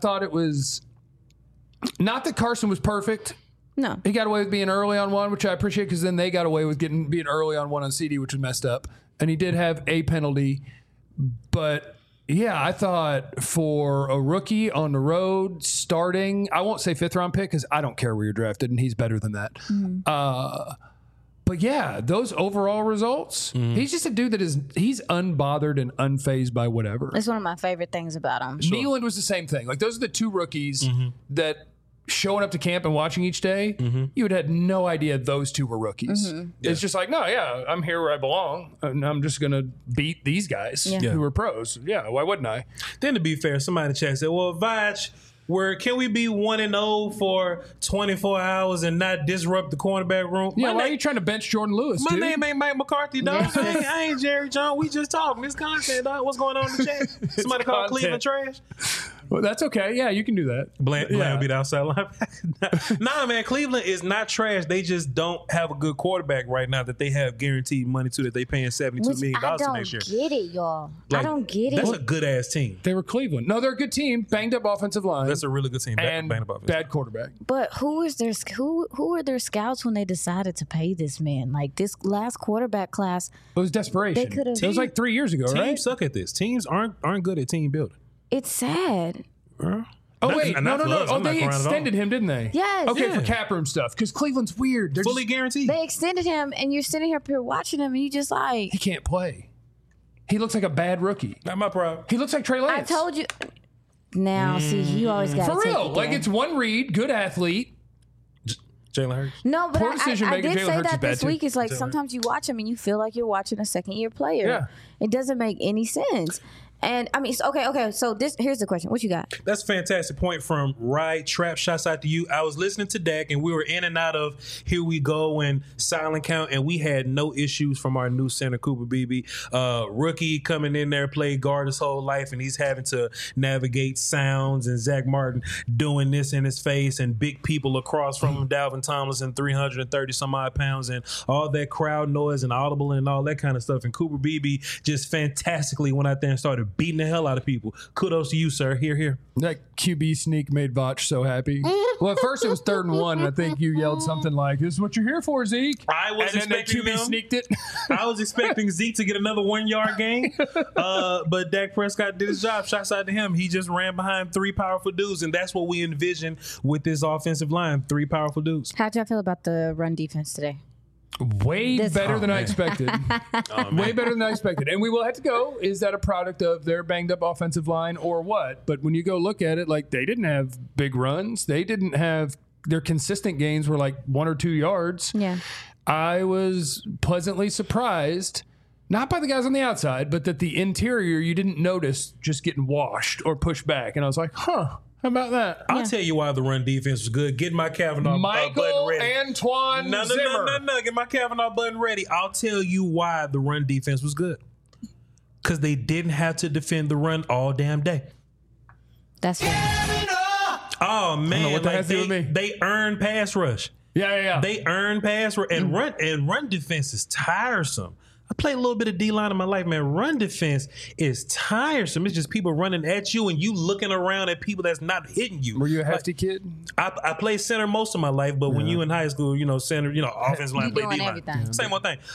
not that Carson was perfect. No. He got away with being early on one, which I appreciate, because then they got away with being early on one on CD, which was messed up. And he did have a penalty. But, I thought for a rookie on the road starting, I won't say 5th round pick because I don't care where you're drafted, and he's better than that. But, those overall results, he's just a dude that he's unbothered and unfazed by whatever. That's one of my favorite things about him. Sure. Nealand was the same thing. Like, those are the 2 rookies that showing up to camp and watching each day, you would have had no idea those two were rookies. It's just like, no, yeah, I'm here where I belong, and I'm just going to beat these guys who are pros. Yeah, why wouldn't I? Then to be fair, somebody in the chat said, well, Vaj, can we be 1-0 for 24 hours and not disrupt the cornerback room? Yeah, why are you trying to bench Jordan Lewis, My name ain't Mike McCarthy, dog. I ain't Jerry Jones. We just talking. This content, dog. What's going on in the chat? Somebody call Cleveland trash? Well, that's okay. Yeah, you can do that. Bland beat outside linebacker. Nah, man, Cleveland is not trash. They just don't have a good quarterback right now that they have guaranteed money to, that they paying $72 million next year. I don't get it, y'all. I don't get it. That's a good-ass team. They were Cleveland. No, they're a good team. Banged up offensive line. That's a really good team. And bad quarterback. But who are their scouts when they decided to pay this man? Like, this last quarterback class. It was desperation. They could have. It was like 3 years ago, right? Teams suck at this. Teams aren't good at team building. It's sad. Oh, wait. No. Oh, they extended him, didn't they? Yes. Okay, for cap room stuff. Because Cleveland's weird. They're fully guaranteed. They extended him, and you're sitting here watching him, and you just like. He can't play. He looks like a bad rookie. Not my problem. He looks like Trey Lance. I told you. Now, see, you always got to for take real. it Like, it's one read, good athlete. Jalen Hurts. No, but I did say that this week. Too. It's like sometimes you watch him and you feel like you're watching a second-year player. Yeah. It doesn't make any sense. And I mean, okay. So here's the question: what you got? That's a fantastic point from Ride Trap. Shouts out to you. I was listening to Dak, and we were in and out of Here We Go and Silent Count, and we had no issues from our new center, Cooper Beebe. Rookie coming in there, played guard his whole life, and he's having to navigate sounds, and Zach Martin doing this in his face, and big people across from him, Dalvin Tomlinson, 330 some odd pounds, and all that crowd noise and audible and all that kind of stuff. And Cooper Beebe just fantastically went out there and started beating the hell out of people. Kudos to you, sir. Here. That QB sneak made Vach so happy. Well, at first it was 3rd and 1, and I think you yelled something like, "This is what you're here for, Zeke." I was expecting QB sneaked it. I was expecting Zeke to get another 1-yard gain, but Dak Prescott did his job. Shouts out to him. He just ran behind 3 powerful dudes, and that's what we envision with this offensive line: 3 powerful dudes. How'd y'all feel about the run defense today? Way better than I expected. Way better than I expected. And we will have to go. Is that a product of their banged up offensive line or what? But when you go look at it, like, they didn't have big runs. They didn't have their consistent gains were like 1 or 2 yards. Yeah. I was pleasantly surprised, not by the guys on the outside, but that the interior you didn't notice just getting washed or pushed back. And I was like, huh. How about that? I'll tell you why the run defense was good. Get my Kavanaugh button ready. Antoine Zimmer. No. Get my Kavanaugh button ready. I'll tell you why the run defense was good. Because they didn't have to defend the run all damn day. That's right. Oh, man. What that has to do with me? They earned pass rush. Yeah. They earned pass rush. And run defense is tiresome. I played a little bit of D-line in my life, man. Run defense is tiresome. It's just people running at you and you looking around at people that's not hitting you. Were you a hefty kid? I played center most of my life, but when you in high school, center, offensive line, play D-line. Same one thing.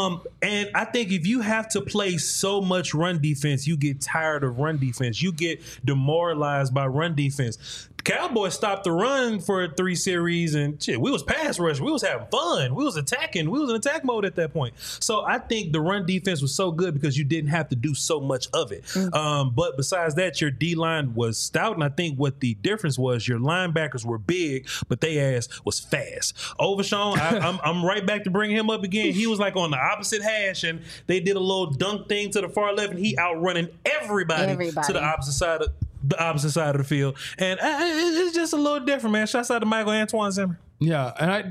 And I think if you have to play so much run defense, you get tired of run defense. You get demoralized by run defense. Cowboys stopped the run for 3 series, and shit, we was pass rush. We was having fun. We was attacking. We was in attack mode at that point. So I think the run defense was so good because you didn't have to do so much of it. But besides that, your D-line was stout, and I think what the difference was, your linebackers were big, but they ass was fast. Overshawn, I'm right back to bring him up again. He was like on the opposite hash, and they did a little dunk thing to the far left, and he outrunning everybody. To the opposite side of the field. And it's just a little different, man. Shouts out to Michael Antoine Zimmer. Yeah,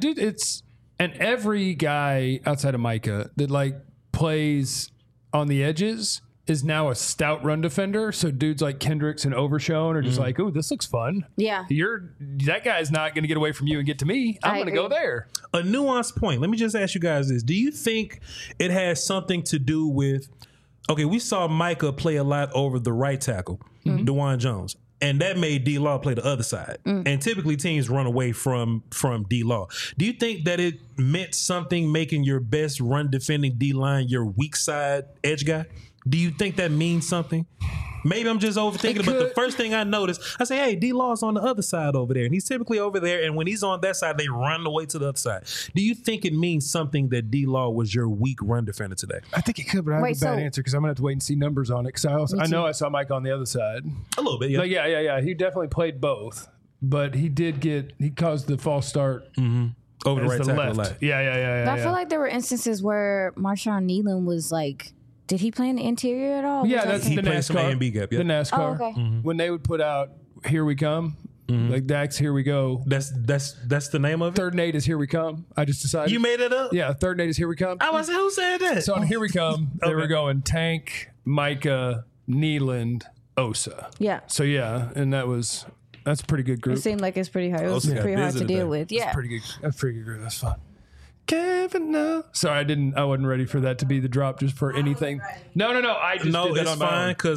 and every guy outside of Micah that like plays on the edges is now a stout run defender. So dudes like Kendricks and Overshown are just like, oh, this looks fun. Yeah. That guy's not going to get away from you and get to me. I'm going to go there. A nuanced point. Let me just ask you guys this. Do you think it has something to do with, okay, we saw Micah play a lot over the right tackle, DeJuan Jones. And that made D-Law play the other side. And typically teams run away from D-Law. Do you think that it meant something making your best run defending D-line your weak side edge guy? Do you think that means something? Maybe I'm just overthinking it, but the first thing I noticed, I say, hey, D-Law's on the other side over there. And he's typically over there. And when he's on that side, they run away to the other side. Do you think it means something that D-Law was your weak run defender today? I think it could, but I have a bad answer because I'm going to have to wait and see numbers on it. Because I know I saw Mike on the other side. A little bit, yeah. But yeah. He definitely played both. but he caused the false start over the as right the tackle. left. Yeah. But I feel like there were instances where Marshawn Nealon was like, did he play in the interior at all? Yeah, that's the played some A NASCAR. and B gap, yeah. The NASCAR. Oh, okay. When they would put out "Here We Come," like Dax, "Here We Go." That's the name of it. Third and 8 is "Here We Come." I just decided. You made it up? Yeah, third and 8 is "Here We Come." I was who said that? So on "Here We Come," they were Okay. going Tank, Micah, Nealand, Osa. Yeah. So yeah, and that's a pretty good group. It seemed like it's pretty hard. It was Also got pretty hard busy to deal today. with. Yeah. That's pretty good group. That's fun. Kevin, no. Sorry, I wasn't ready for that to be the drop just for anything. No. I just No, did that it's on my fine own. because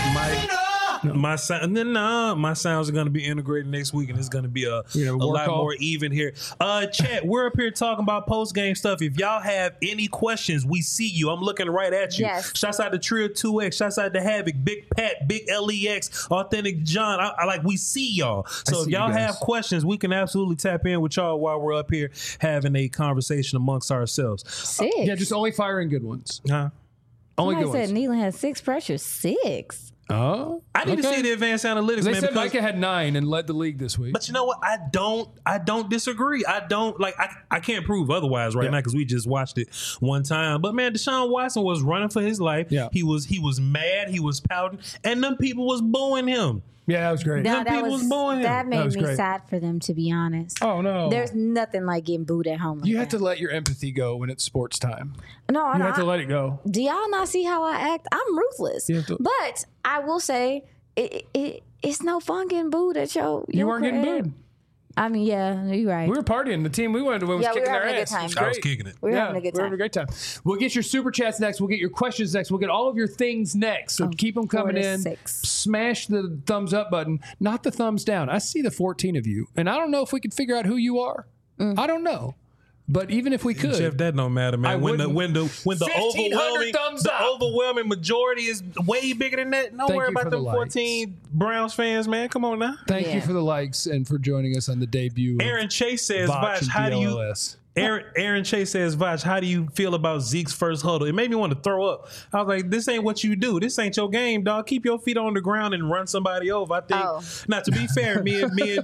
my sounds are going to be integrated next week, and it's going to be a work lot call? more even here. Chat, we're up here talking about post game stuff. If y'all have any questions, we see you. I'm looking right at you. Yes. Shouts out to Trio 2X. Shouts out to Havoc, Big Pat, Big LEX, Authentic John. I like we see y'all. So if see you y'all guys. have questions, we can absolutely tap in with y'all while we're up here having a conversation amongst ourselves. 6. Yeah, just only firing good ones. Huh? Only Somebody good said ones. Nealon had 6 pressures. 6. Oh, I need to okay. see the advanced analytics, They man. said because- Micah had 9 and led the league this week. But you know what? I don't disagree. I don't like. I can't prove otherwise right Yeah. now because we just watched it one time. But man, Deshaun Watson was running for his life. Yeah. He was mad. He was pouting, and them people was booing him. Yeah, that was great. Them people was booing him. That made was me great. sad for them, to be honest. Oh no, There's nothing like getting booed at home. Like you have that. to let your empathy go when it's sports time. No, You have to let it go. do y'all not see how I act? I'm ruthless. You have to- But I will say it's no fun getting booed at your You weren't getting crib. booed. I mean, yeah, you're right. We were partying. The team we wanted to win was Yeah, we were kicking their having a good ass. time. It was I was great. kicking it. We're having a good We're time. having a great time. We'll get your super chats next. We'll get your questions next. We'll get all of your things next. So keep them 4 coming to in. 6. Smash the thumbs up button, not the thumbs down. I see the 14 of you, and I don't know if we could figure out who you are. I don't know. But even if we could, Jeff, that don't matter, man. I When the wouldn't. 1,500 thumbs up. overwhelming majority is way bigger than that. Don't Thank worry you for about the them likes. 14 Browns fans, man. Come on now. thank you Yeah. for the likes and for joining us on the debut. of Aaron Chase says, Vach Vash, and how do you? DLLS. Aaron Chase says, Vash, how do you feel about Zeke's first huddle? It made me want to throw up. I was like, this ain't what you do. This ain't your game, dog. Keep your feet on the ground and run somebody over. I think. Oh. Now, to be fair, me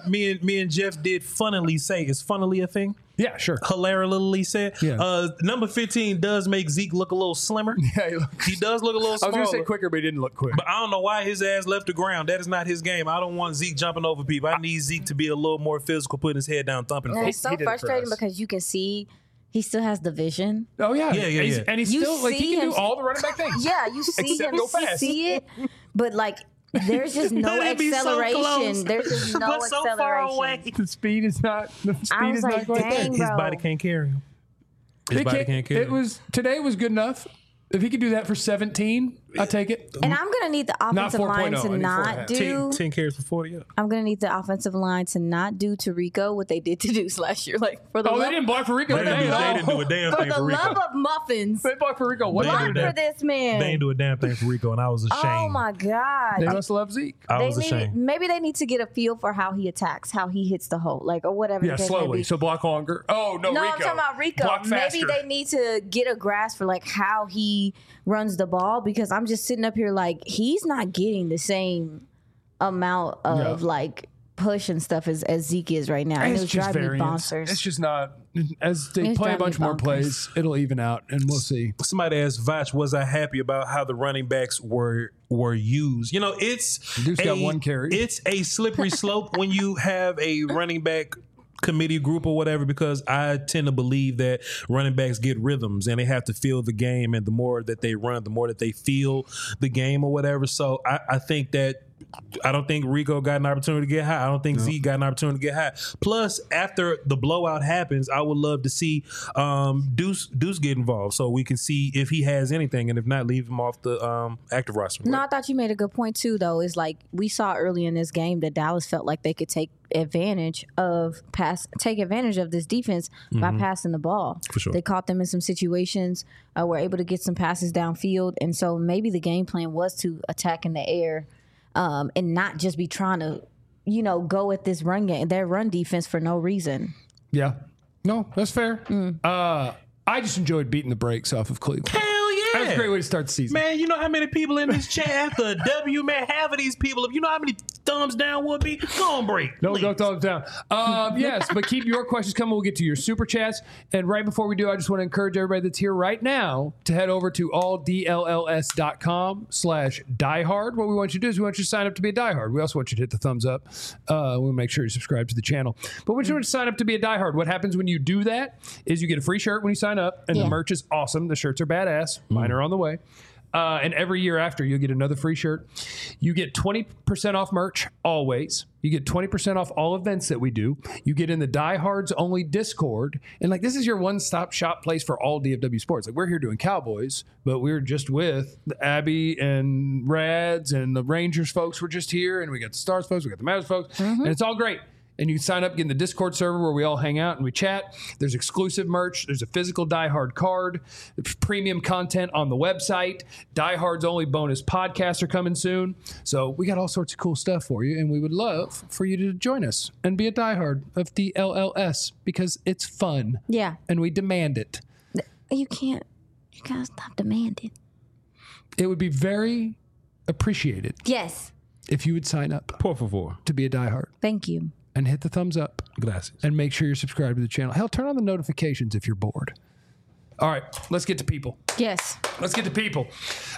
and Jeff did funnily say, is funnily a thing? Yeah, sure. Hilariously said. Yeah. Number 15 does make Zeke look a little slimmer. Yeah, He does look a little I was smaller. going to say quicker, but he didn't look quick. But I don't know why his ass left the ground. That is not his game. I don't want Zeke jumping over people. I need Zeke to be a little more physical, putting his head down, thumping. And folks. it's so he did it for frustrating us. because you can see he still has the vision. Oh yeah, Yeah. And he's You still like he see can him- do all the running back things. Yeah, you see Except him, go you fast. see it, but like there's just no But it'd be so acceleration. close. There's just no But so acceleration. far away. The speed is not. The speed I was is like, not quite there. dang, His bro. body can't carry him. His It body can't- can't carry It him. was today was good enough. If he could do that for 17, I take it. And I'm gonna need the offensive 4.0, line I to need not 4.5. do. 10 carries for 40. Yeah. I'm gonna need the offensive line to not do to Rico what they did to Deuce last year. Like for the Oh, love, they didn't block for Rico. They didn't do a damn for thing the for Rico. love of muffins, They blocked for Rico. What They did block did they do? for this man. They ain't do a damn thing for Rico, and I was ashamed. Oh my god. They must love Zeke. I was They ashamed. maybe they need to get a feel for how he attacks, how he hits the hole, like or whatever. Yeah, the case may slowly. be. So block longer. Oh no, No, Rico. I'm talking about Rico. Block faster. Maybe they need to get a grasp for like how he runs the ball because I'm just sitting up here like he's not getting the same amount of Yeah. like push and stuff as Zeke is right now. And It's it was just driving me variance. bonkers. It's just not. As they It's play a driving me bunch more bonkers. plays, it'll even out, and we'll see. Somebody asked Vach, was I happy about how the running backs were used? You know, it's Deuce got one carry. It's a slippery slope when you have a running back committee group or whatever, because I tend to believe that running backs get rhythms and they have to feel the game, and the more that they run, the more that they feel the game or whatever. So I think that I don't think Rico got an opportunity to get high. I don't think Zeke got an opportunity to get high. Plus, after the blowout happens, I would love to see Deuce get involved so we can see if he has anything, and if not, leave him off the active roster. No, I thought you made a good point too. Though is like we saw early in this game that Dallas felt like they could take advantage of this defense by passing the ball. For sure. They caught them in some situations. Were able to get some passes downfield, and so maybe the game plan was to attack in the air and not just be trying to, go at this run game, their run defense for no reason. Yeah. No, that's fair. I just enjoyed beating the brakes off of Cleveland. Hell yeah. That was a great way to start the season. Man, you know how many people in this chat after a W, man, half of these people, you know how many thumbs down would be? Go on break. Don't go thumbs down. Yes, but keep your questions coming. We'll get to your super chats. And right before we do, I just want to encourage everybody that's here right now to head over to alldlls.com/diehard. What we want you to do is we want you to sign up to be a diehard. We also want you to hit the thumbs up. We'll make sure you subscribe to the channel. But we want you to sign up to be a diehard. What happens when you do that is you get a free shirt when you sign up, and the merch is awesome. The shirts are badass. Mine are on the way. And every year after, you'll get another free shirt. You get 20% off merch, always. You get 20% off all events that we do. You get in the Diehards Only Discord. And, like, this is your one-stop shop place for all DFW sports. Like, we're here doing Cowboys, but we're just with the Abby and Rads and the Rangers folks were just here. And we got the Stars folks, we got the Mavs folks. And it's all great. And you sign up, get in the Discord server where we all hang out and we chat. There's exclusive merch. There's a physical Die Hard card. There's premium content on the website. Die Hard's only bonus podcasts are coming soon. So we got all sorts of cool stuff for you. And we would love for you to join us and be a Die Hard of DLLS because it's fun. Yeah. And we demand it. You gotta stop demanding. It would be very appreciated. Yes. If you would sign up. Por favor. To be a Die Hard. Thank you. And hit the thumbs up. Gracias. And make sure you're subscribed to the channel. Hell, turn on the notifications if you're bored. All right, let's get to people. Yes. Let's get to people.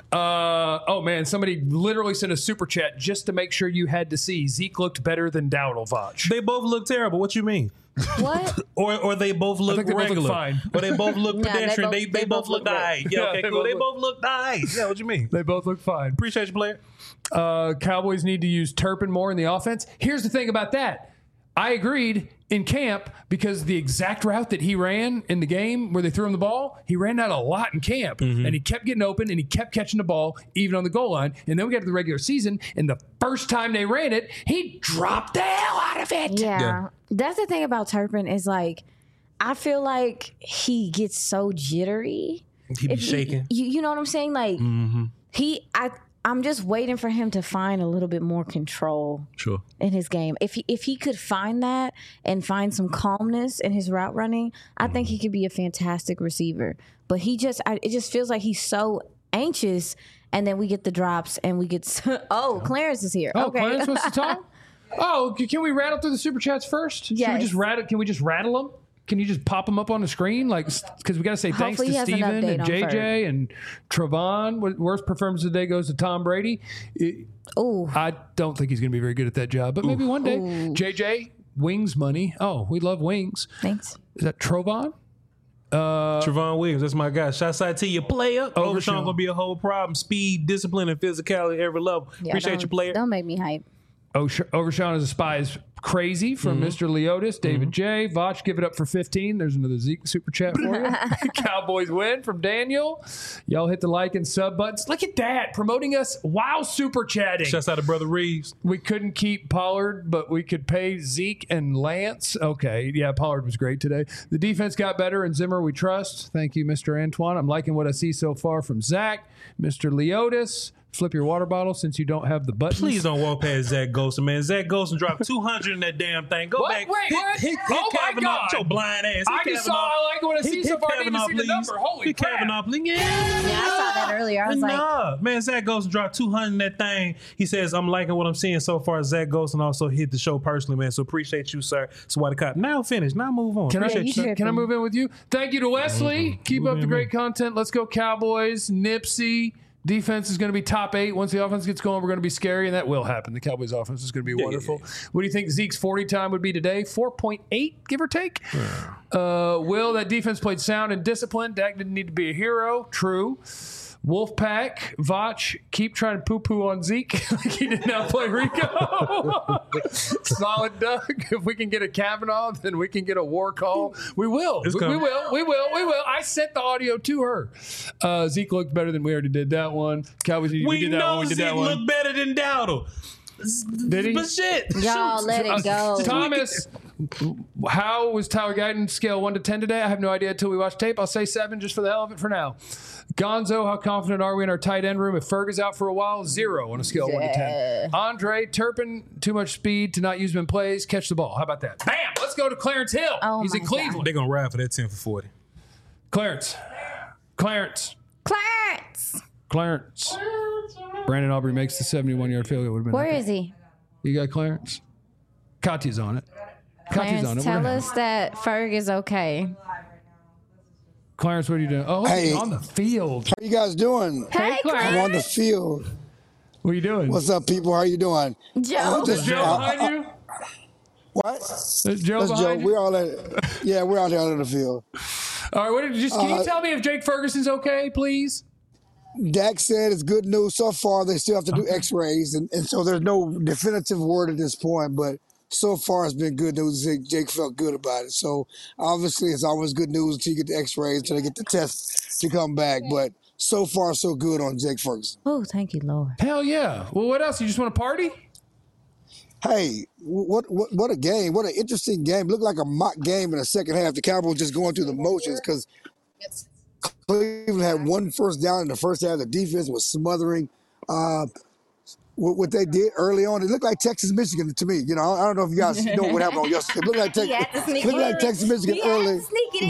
Oh, man, somebody literally sent a super chat just to make sure you had to see Zeke looked better than Dowdle, Voch. They both look terrible. What you mean? What? or they both look regular. Both look fine. Or they both look pedestrian. They both look die. Yeah, okay, cool. They both look die. Yeah, what you mean? They both look fine. Appreciate you, player. Cowboys need to use Turpin more in the offense. Here's the thing about that. I agreed in camp because the exact route that he ran in the game where they threw him the ball, he ran that a lot in camp. And he kept getting open and he kept catching the ball even on the goal line. And then we got to the regular season, and the first time they ran it, he dropped the hell out of it. Yeah. That's the thing about Turpin is, like, I feel like he gets so jittery. He be shaking. You know what I'm saying? Like, I'm just waiting for him to find a little bit more control in his game. If he could find that and find some calmness in his route running, I think he could be a fantastic receiver. But it just feels like he's so anxious, and then we get the drops and we get Clarence is here. Oh, okay. Clarence wants to talk? Oh, can we rattle through the super chats first? Yes. Can we just rattle them? Can you just pop them up on the screen? Like, because we got to say thanks to Steven and JJ and Travon. Worst performance of the day goes to Tom Brady. I don't think he's going to be very good at that job, but maybe one day. JJ, wings money. Oh, we love wings. Thanks. Is that Trovon? Trevon Williams, that's my guy. Shouts out to you, player. Overshawn gonna be a whole problem. Speed, discipline, and physicality at every level. Appreciate you, player. Don't make me hype. Overshawn as a spy is crazy from Mr. Leotis. David J. Voch, give it up for 15. There's another Zeke super chat for you. Cowboys win from Daniel. Y'all hit the like and sub buttons. Look at that. Promoting us while super chatting. Shouts out to Brother Reeves. We couldn't keep Pollard, but we could pay Zeke and Lance. Okay. Yeah, Pollard was great today. The defense got better, and Zimmer we trust. Thank you, Mr. Antoine. I'm liking what I see so far from Zach. Mr. Leotis. Flip your water bottle since you don't have the buttons. Please don't walk past Zach Golson, man. Zach Golson dropped 200 in that damn thing. Go back. Wait, what? Hit Oh, my Kavanaugh. God. Your blind ass. I just saw I like what I see so far. I need to see the number. Holy crap. Kavanaugh, please. Yeah, I saw that earlier. I was like, man, Zach Golson dropped 200 in that thing. He says, I'm liking what I'm seeing so far. Zach Golson also hit the show personally, man. So appreciate you, sir. So why the cop? Now finish. Now move on. Can I move in with you? Thank you to Wesley. Keep up the great content. Let's go Cowboys. Nipsey. Defense is going to be top 8. Once the offense gets going, we're going to be scary, and that will happen. The Cowboys' offense is going to be wonderful. What do you think Zeke's 40 time would be today? 4.8, give or take? Will, that defense played sound and disciplined. Dak didn't need to be a hero. True. Wolfpack, Voch, keep trying to poo-poo on Zeke like he did not play Rico. Solid Doug. If we can get a Kavanaugh, then we can get a war call. We will. We will. I sent the audio to her. Zeke looked better than we already did that one. Cowboys, we did that one. We did that one. Zeke looked better than Dowdle. Did he? But shit. Y'all let it go. Thomas, how was Tyler Guyton scale 1 to 10 today? I have no idea until we watch tape. I'll say 7 just for the hell of it for now. Gonzo, how confident are we in our tight end room? If Ferg is out for a while, 0 on a scale of 1 to 10. Andre, Turpin, too much speed to not use him in plays. Catch the ball. How about that? Bam! Let's go to Clarence Hill. Oh, he's in Cleveland. They're going to ride for that 10 for 40. Clarence. Brandon Aubrey makes the 71-yard field goal. Where is he? You got Clarence? Katya's on it. Clarence, tell us that Ferg is okay. Clarence, what are you doing? Oh, hey, on the field. How you guys doing? Hey, Clarence. I'm on the field. What are you doing? What's up, people? How you doing? Joe. Is Joe behind you? What? Is Joe behind you? We're all we're out there on the field. All right, can you tell me if Jake Ferguson's okay, please? Dak said it's good news so far. They still have to do X-rays, and so there's no definitive word at this point. But so far, it's been good news. Jake felt good about it. So obviously, it's always good news until you get the X-rays, until they get the tests to come back. But so far, so good on Jake Ferguson. Oh, thank you, Lord. Hell yeah. Well, what else? You just want to party? Hey, what a game. What an interesting game. Looked like a mock game in the second half. The Cowboys just going through the motions because Cleveland had one first down in the first half. The defense was smothering. What they did early on, it looked like Texas, Michigan to me. You know, I don't know if you guys know what happened on yesterday. It looked like Texas, Michigan early.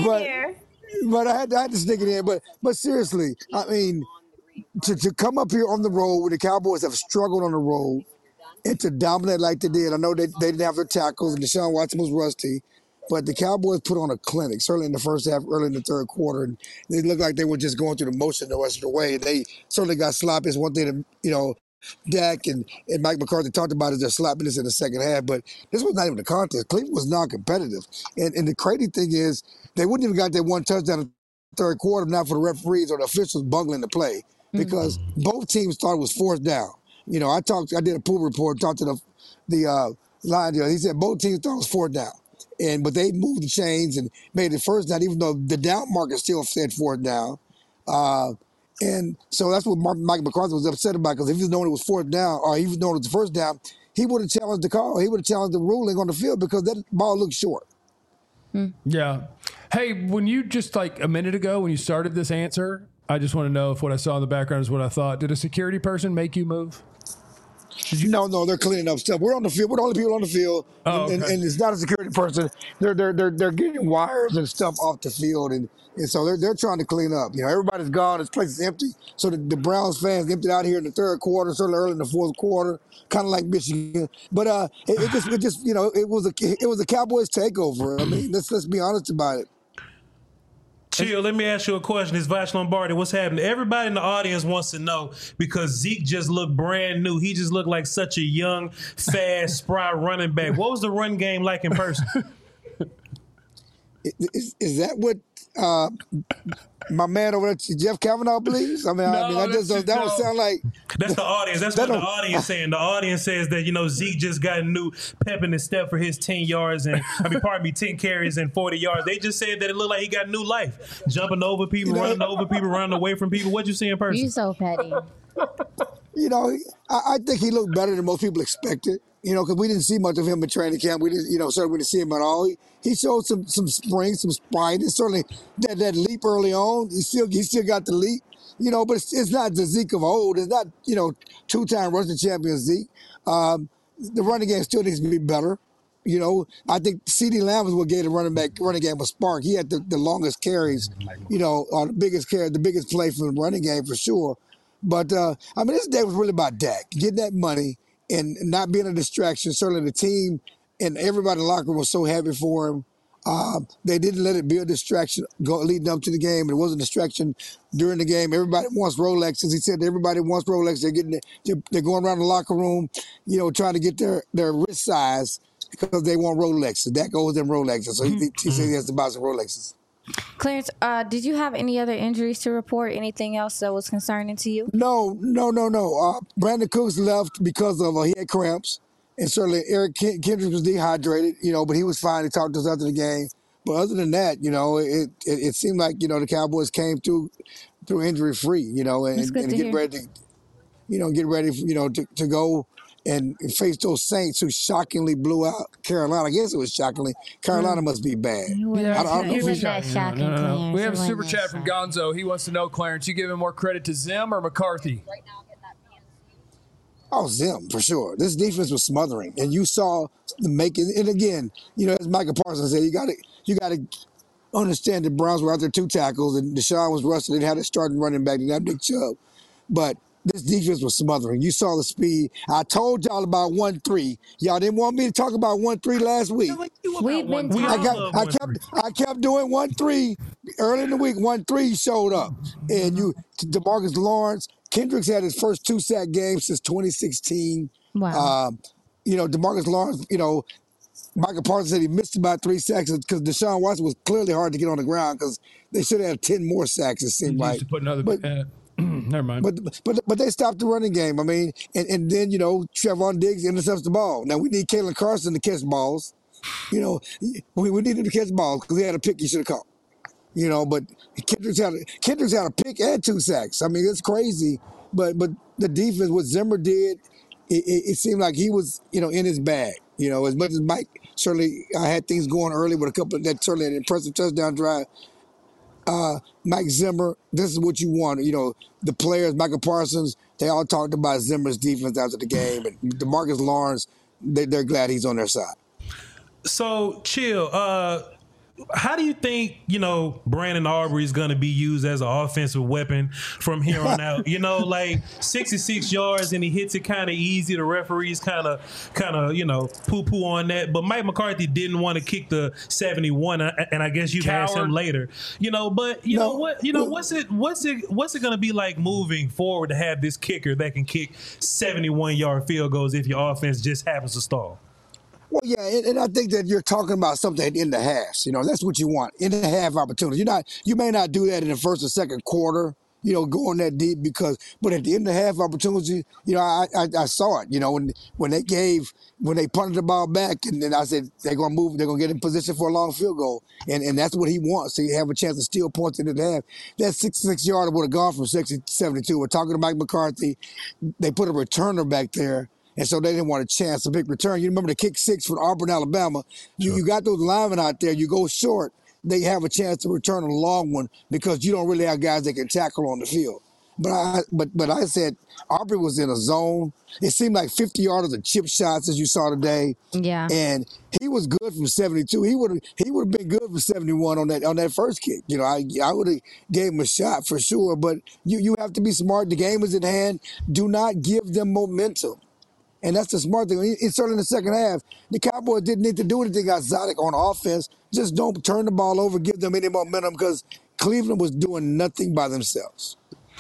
But I had to sneak it in. But seriously, I mean, to come up here on the road where the Cowboys have struggled on the road and to dominate like they did. I know they didn't have their tackles and Deshaun Watson was rusty. But the Cowboys put on a clinic, certainly in the first half, early in the third quarter. And they looked like they were just going through the motion the rest of the way. They certainly got sloppy. It's one thing that, Dak and Mike McCarthy talked about is their sloppiness in the second half. But this was not even a contest. Cleveland was non-competitive. And the crazy thing is they wouldn't even got that one touchdown in the third quarter, not for the referees or the officials bungling the play because both teams thought it was fourth down. I did a pool report, talked to the line dealer. He said both teams thought it was fourth down. But they moved the chains and made it first down, even though the down marker still said fourth down. And so that's what Mike McCarthy was upset about, because if he was knowing it was fourth down, or he was knowing it was the first down, he would have challenged the call. He would have challenged the ruling on the field because that ball looked short. Yeah. Hey, when you just like a minute ago, when you started this answer, I just want to know if what I saw in the background is what I thought. Did a security person make you move? No, they're cleaning up stuff. We're on the field. We're the only people on the field, and it's not a security person. They're getting wires and stuff off the field, and so they're trying to clean up. Everybody's gone. This place is empty. So the Browns fans emptied out here in the third quarter, certainly early in the fourth quarter, kind of like Michigan. But it was a Cowboys takeover. I mean, let's be honest about it. Chill, let me ask you a question. It's Vash Lombardi. What's happening? Everybody in the audience wants to know, because Zeke just looked brand new. He just looked like such a young, fast, spry running back. What was the run game like in person? Is that what my man over there, Jeff Kavanaugh, believes? That don't sound like... That's the audience. That's what the audience saying. The audience says that, Zeke just got a new pep in his step for his 10 carries and 40 yards. They just said that it looked like he got new life. Jumping over people, running over people, running away from people. What you see in person? You so petty. I think he looked better than most people expected. Because we didn't see much of him in training camp. We didn't, certainly we didn't see him at all. He showed some spring, some sprite. And certainly that leap early on, he still got the leap. But it's not the Zeke of old. It's not, two-time rushing champion Zeke. The running game still needs to be better. I think CeeDee Lamb was what gave the running game a spark. He had the longest carries, or the biggest play from the running game for sure. But, this day was really about Dak, getting that money and not being a distraction. Certainly the team and everybody in the locker room was so happy for him. They didn't let it be a distraction leading up to the game. It wasn't a distraction during the game. Everybody wants Rolexes. He said everybody wants Rolexes. They're going around the locker room, trying to get their wrist size because they want Rolexes. That goes them Rolexes. So he said he has to buy some Rolexes. Clarence, did you have any other injuries to report? Anything else that was concerning to you? No. Brandon Cooks left because of he had cramps. And certainly Eric Kendricks was dehydrated, but he was fine. He talked to us after the game. But other than that, it seemed like, the Cowboys came through injury free, and get ready to go and face those Saints who shockingly blew out Carolina. I guess it was shockingly. Carolina must be bad. Yeah, I don't know if it's that shocking. No. We have a super chat from Gonzo. He wants to know, Clarence, you giving more credit to Zim or McCarthy? Oh, Zim, for sure. This defense was smothering. And you saw the making. And again, as Micah Parsons said, you got to understand the Browns were out there 2 tackles, and Deshaun was rusty. They had a starting running back, and that Nick Chubb. But this defense was smothering. You saw the speed. I told y'all about 1-3. Y'all didn't want me to talk about 1-3 last week. I kept doing 1-3 early in the week. 1-3 showed up, and DeMarcus Lawrence, Kendricks had his first 2-sack game since 2016. Wow. DeMarcus Lawrence, Michael Parsons said he missed about 3 sacks because Deshaun Watson was clearly hard to get on the ground because they should have 10 more sacks, it seemed like. Never mind. But they stopped the running game. I mean, and then, Trevon Diggs intercepts the ball. Now, we need Kalen Carson to catch balls. We need him to catch balls because he had a pick he should have caught. But Kendricks had a pick and 2 sacks. I mean, it's crazy. But the defense, what Zimmer did, it seemed like he was, in his bag. As much as Mike, certainly I had things going early with a couple of that, certainly an impressive touchdown drive. Mike Zimmer, this is what you want. The players, Michael Parsons, they all talked about Zimmer's defense after the game. And DeMarcus Lawrence, they're glad he's on their side. So, Chill, how do you think, Brandon Aubrey is going to be used as an offensive weapon from here on out? 66 yards and he hits it kind of easy. The referees kind of, poo-poo on that. But Mike McCarthy didn't want to kick the 71, and I guess you can ask him later. What's it going to be like moving forward to have this kicker that can kick 71-yard field goals if your offense just happens to stall? Well, yeah, and I think that you're talking about something in the halves. That's what you want, in the half opportunity. You may not do that in the first or second quarter, going that deep but at the end of the half opportunity, I saw it, when they punted the ball back, and then I said they're going to move, they're going to get in position for a long field goal, and that's what he wants. So you have a chance to steal points into the half. That 66-yarder would have gone from 60 to 72. We're talking to Mike McCarthy. They put a returner back there. And so they didn't want a chance to big return. You remember the kick 6 for Auburn, Alabama. You got those linemen out there. You go short, they have a chance to return a long one because you don't really have guys that can tackle on the field. But I said Aubrey was in a zone. It seemed like 50-yarders of chip shots as you saw today. Yeah. And he was good from 72. He would have been good from 71 on that first kick. I would have gave him a shot for sure. But you have to be smart. The game is at hand. Do not give them momentum. And that's the smart thing. It's certainly in the second half. The Cowboys didn't need to do anything exotic on offense. Just don't turn the ball over, give them any momentum because Cleveland was doing nothing by themselves.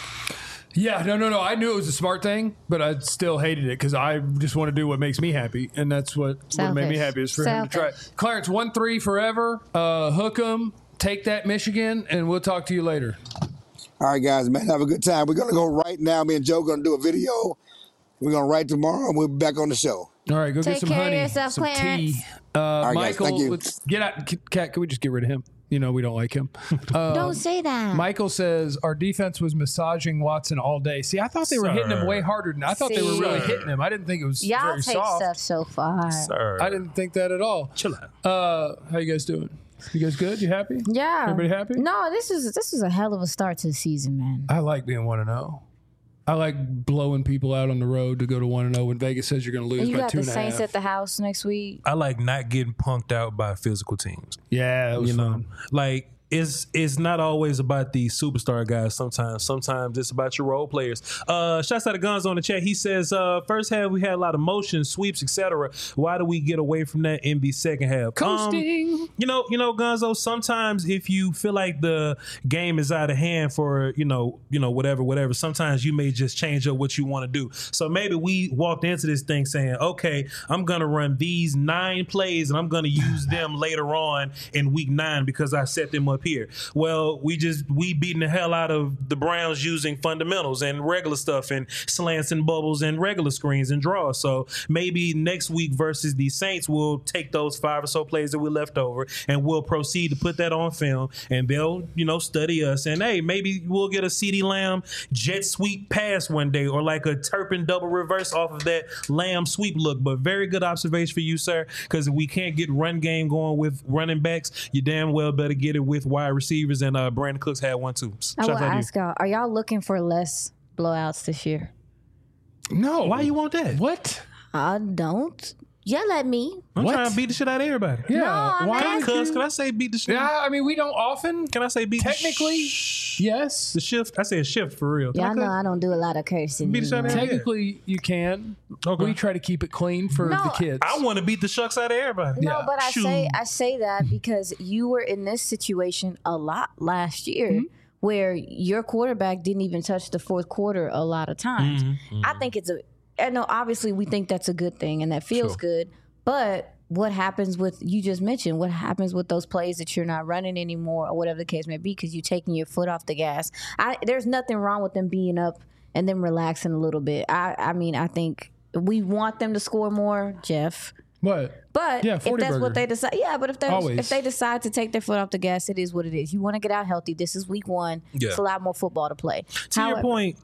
Yeah, no. I knew it was a smart thing, but I still hated it because I just want to do what makes me happy, and that's what made me happy is for him to try. Clarence, 1-3 forever. Hook 'em. Take that, Michigan, and we'll talk to you later. All right, guys, man, have a good time. We're going to go right now. Me and Joe going to do a video. We're going to write tomorrow, and we'll be back on the show. All right, go get some honey, yourself, some Clarence. tea. Right, Michael, guys, let's get out. Cat, can we just get rid of him? We don't like him. Don't say that. Michael says, our defense was massaging Watson all day. See, I thought they were hitting him way harder than I thought they were really hitting him. I didn't think it was Y'all very take soft. stuff so far. Sir. I didn't think that at all. Chill out. How you guys doing? You guys good? You happy? Yeah. Everybody happy? No, this is a hell of a start to the season, man. I like being 1-0. I like blowing people out on the road to go to 1-0 when Vegas says you're going to lose you by got 2.5. the Saints at the house next week. I like not getting punked out by physical teams. Yeah, that was fun. Like it's not always about the superstar guys. Sometimes it's about your role players. Shouts out to Guns on the chat. He says, first half we had a lot of motion, sweeps, etc. Why do we get away from that in the second half? Coasting. Gonzo, sometimes if you feel like the game is out of hand for, whatever, sometimes you may just change up what you want to do. So maybe we walked into this thing saying, okay, I'm going to run these 9 plays and I'm going to use them later on in week 9 because I set them up here. Well, we beating the hell out of the Browns using fundamentals and regular stuff and slants and bubbles and regular screens and draws. So maybe next week versus the Saints, we'll take those 5 or so plays that we left over and we'll proceed to put that on film and they'll, study us. And hey, maybe we'll get a CeeDee Lamb jet sweep pass one day or like a Turpin double reverse off of that Lamb sweep look. But very good observation for you, sir, because if we can't get run game going with running backs, you damn well better get it with wide receivers, and Brandon Cooks had one too. I will ask y'all, are y'all looking for less blowouts this year? No. Why you want that? What? I don't. yell at me. I'm trying to beat the shit out of everybody. Yeah. No, why? Can I say beat the shit? Yeah, I mean, we don't often. Can I say beat Technically, yes. the shift? I say a shift for real. Y'all know I don't do a lot of cursing. Beat the shit out of everybody. Technically, you can. Okay. We try to keep it clean for No, the kids. I want to beat the shucks out of everybody. No, Yeah. but I Shoot. say that because you were in this situation a lot last year where your quarterback didn't even touch the fourth quarter a lot of times. I think I know obviously we think that's a good thing and that feels good, but what happens with, you just mentioned, what happens with those plays that you're not running anymore or whatever the case may be because you're taking your foot off the gas. There's nothing wrong with them being up and then relaxing a little bit. I mean, I think we want them to score more, Jeff. What? But Yeah, if 40 that's burger. what they decide, but Always. if they decide to take their foot off the gas, it is what it is. You want to get out healthy. This is week 1. Yeah. It's a lot more football to play. To your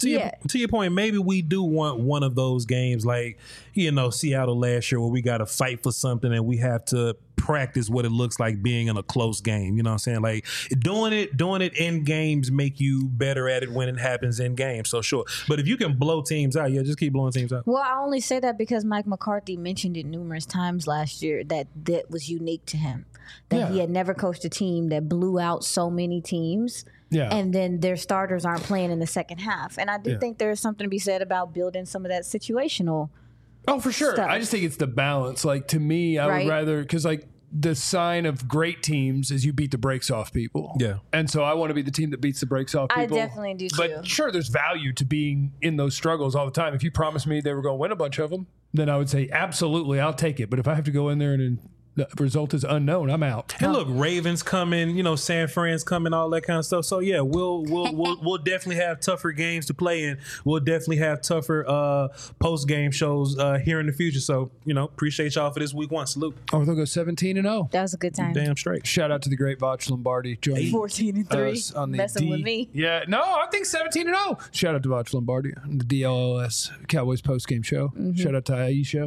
point, maybe we do want one of those games like, Seattle last year where we got to fight for something and we have to practice what it looks like being in a close game. You know what I'm saying? Like doing it in games make you better at it when it happens in games. So sure. But if you can blow teams out, just keep blowing teams out. Well, I only say that because Mike McCarthy mentioned it numerous times last year that was unique to him. That he had never coached a team that blew out so many teams. Yeah. And then their starters aren't playing in the second half. And I do think there's something to be said about building some of that situational. Oh, for sure. stuff. I just think it's the balance. Like, to me, I would rather, because, like, the sign of great teams is you beat the brakes off people. Yeah. And so I want to be the team that beats the brakes off people. I definitely do, But too. sure, there's value to being in those struggles all the time. If you promised me they were going to win a bunch of them, then I would say, absolutely, I'll take it. But if I have to go in there and the result is unknown, I'm out. And look, Ravens coming, San Fran's coming, all that kind of stuff. So yeah, we'll definitely have tougher games to play in. We'll definitely have tougher post game shows here in the future. So appreciate y'all for this week 1. Salute. Oh, they'll go 17-0. That was a good time. Damn straight. Shout out to the great Voch Lombardi joining 14-3. us on the Messing with me. Yeah, no, I think 17-0. Shout out to Voch Lombardi on the DLLS Cowboys post game show. Shout out to Aisha.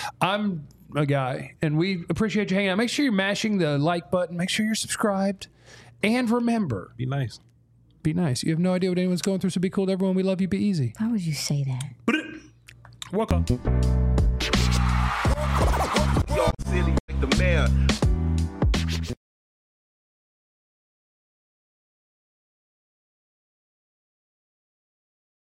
I'm a guy, and we appreciate you hanging out. Make sure you're mashing the like button. Make sure you're subscribed, and remember, Be nice. be nice. You have no idea what anyone's going through, so be cool to everyone. We love you. Be easy. Why would you say that? Welcome.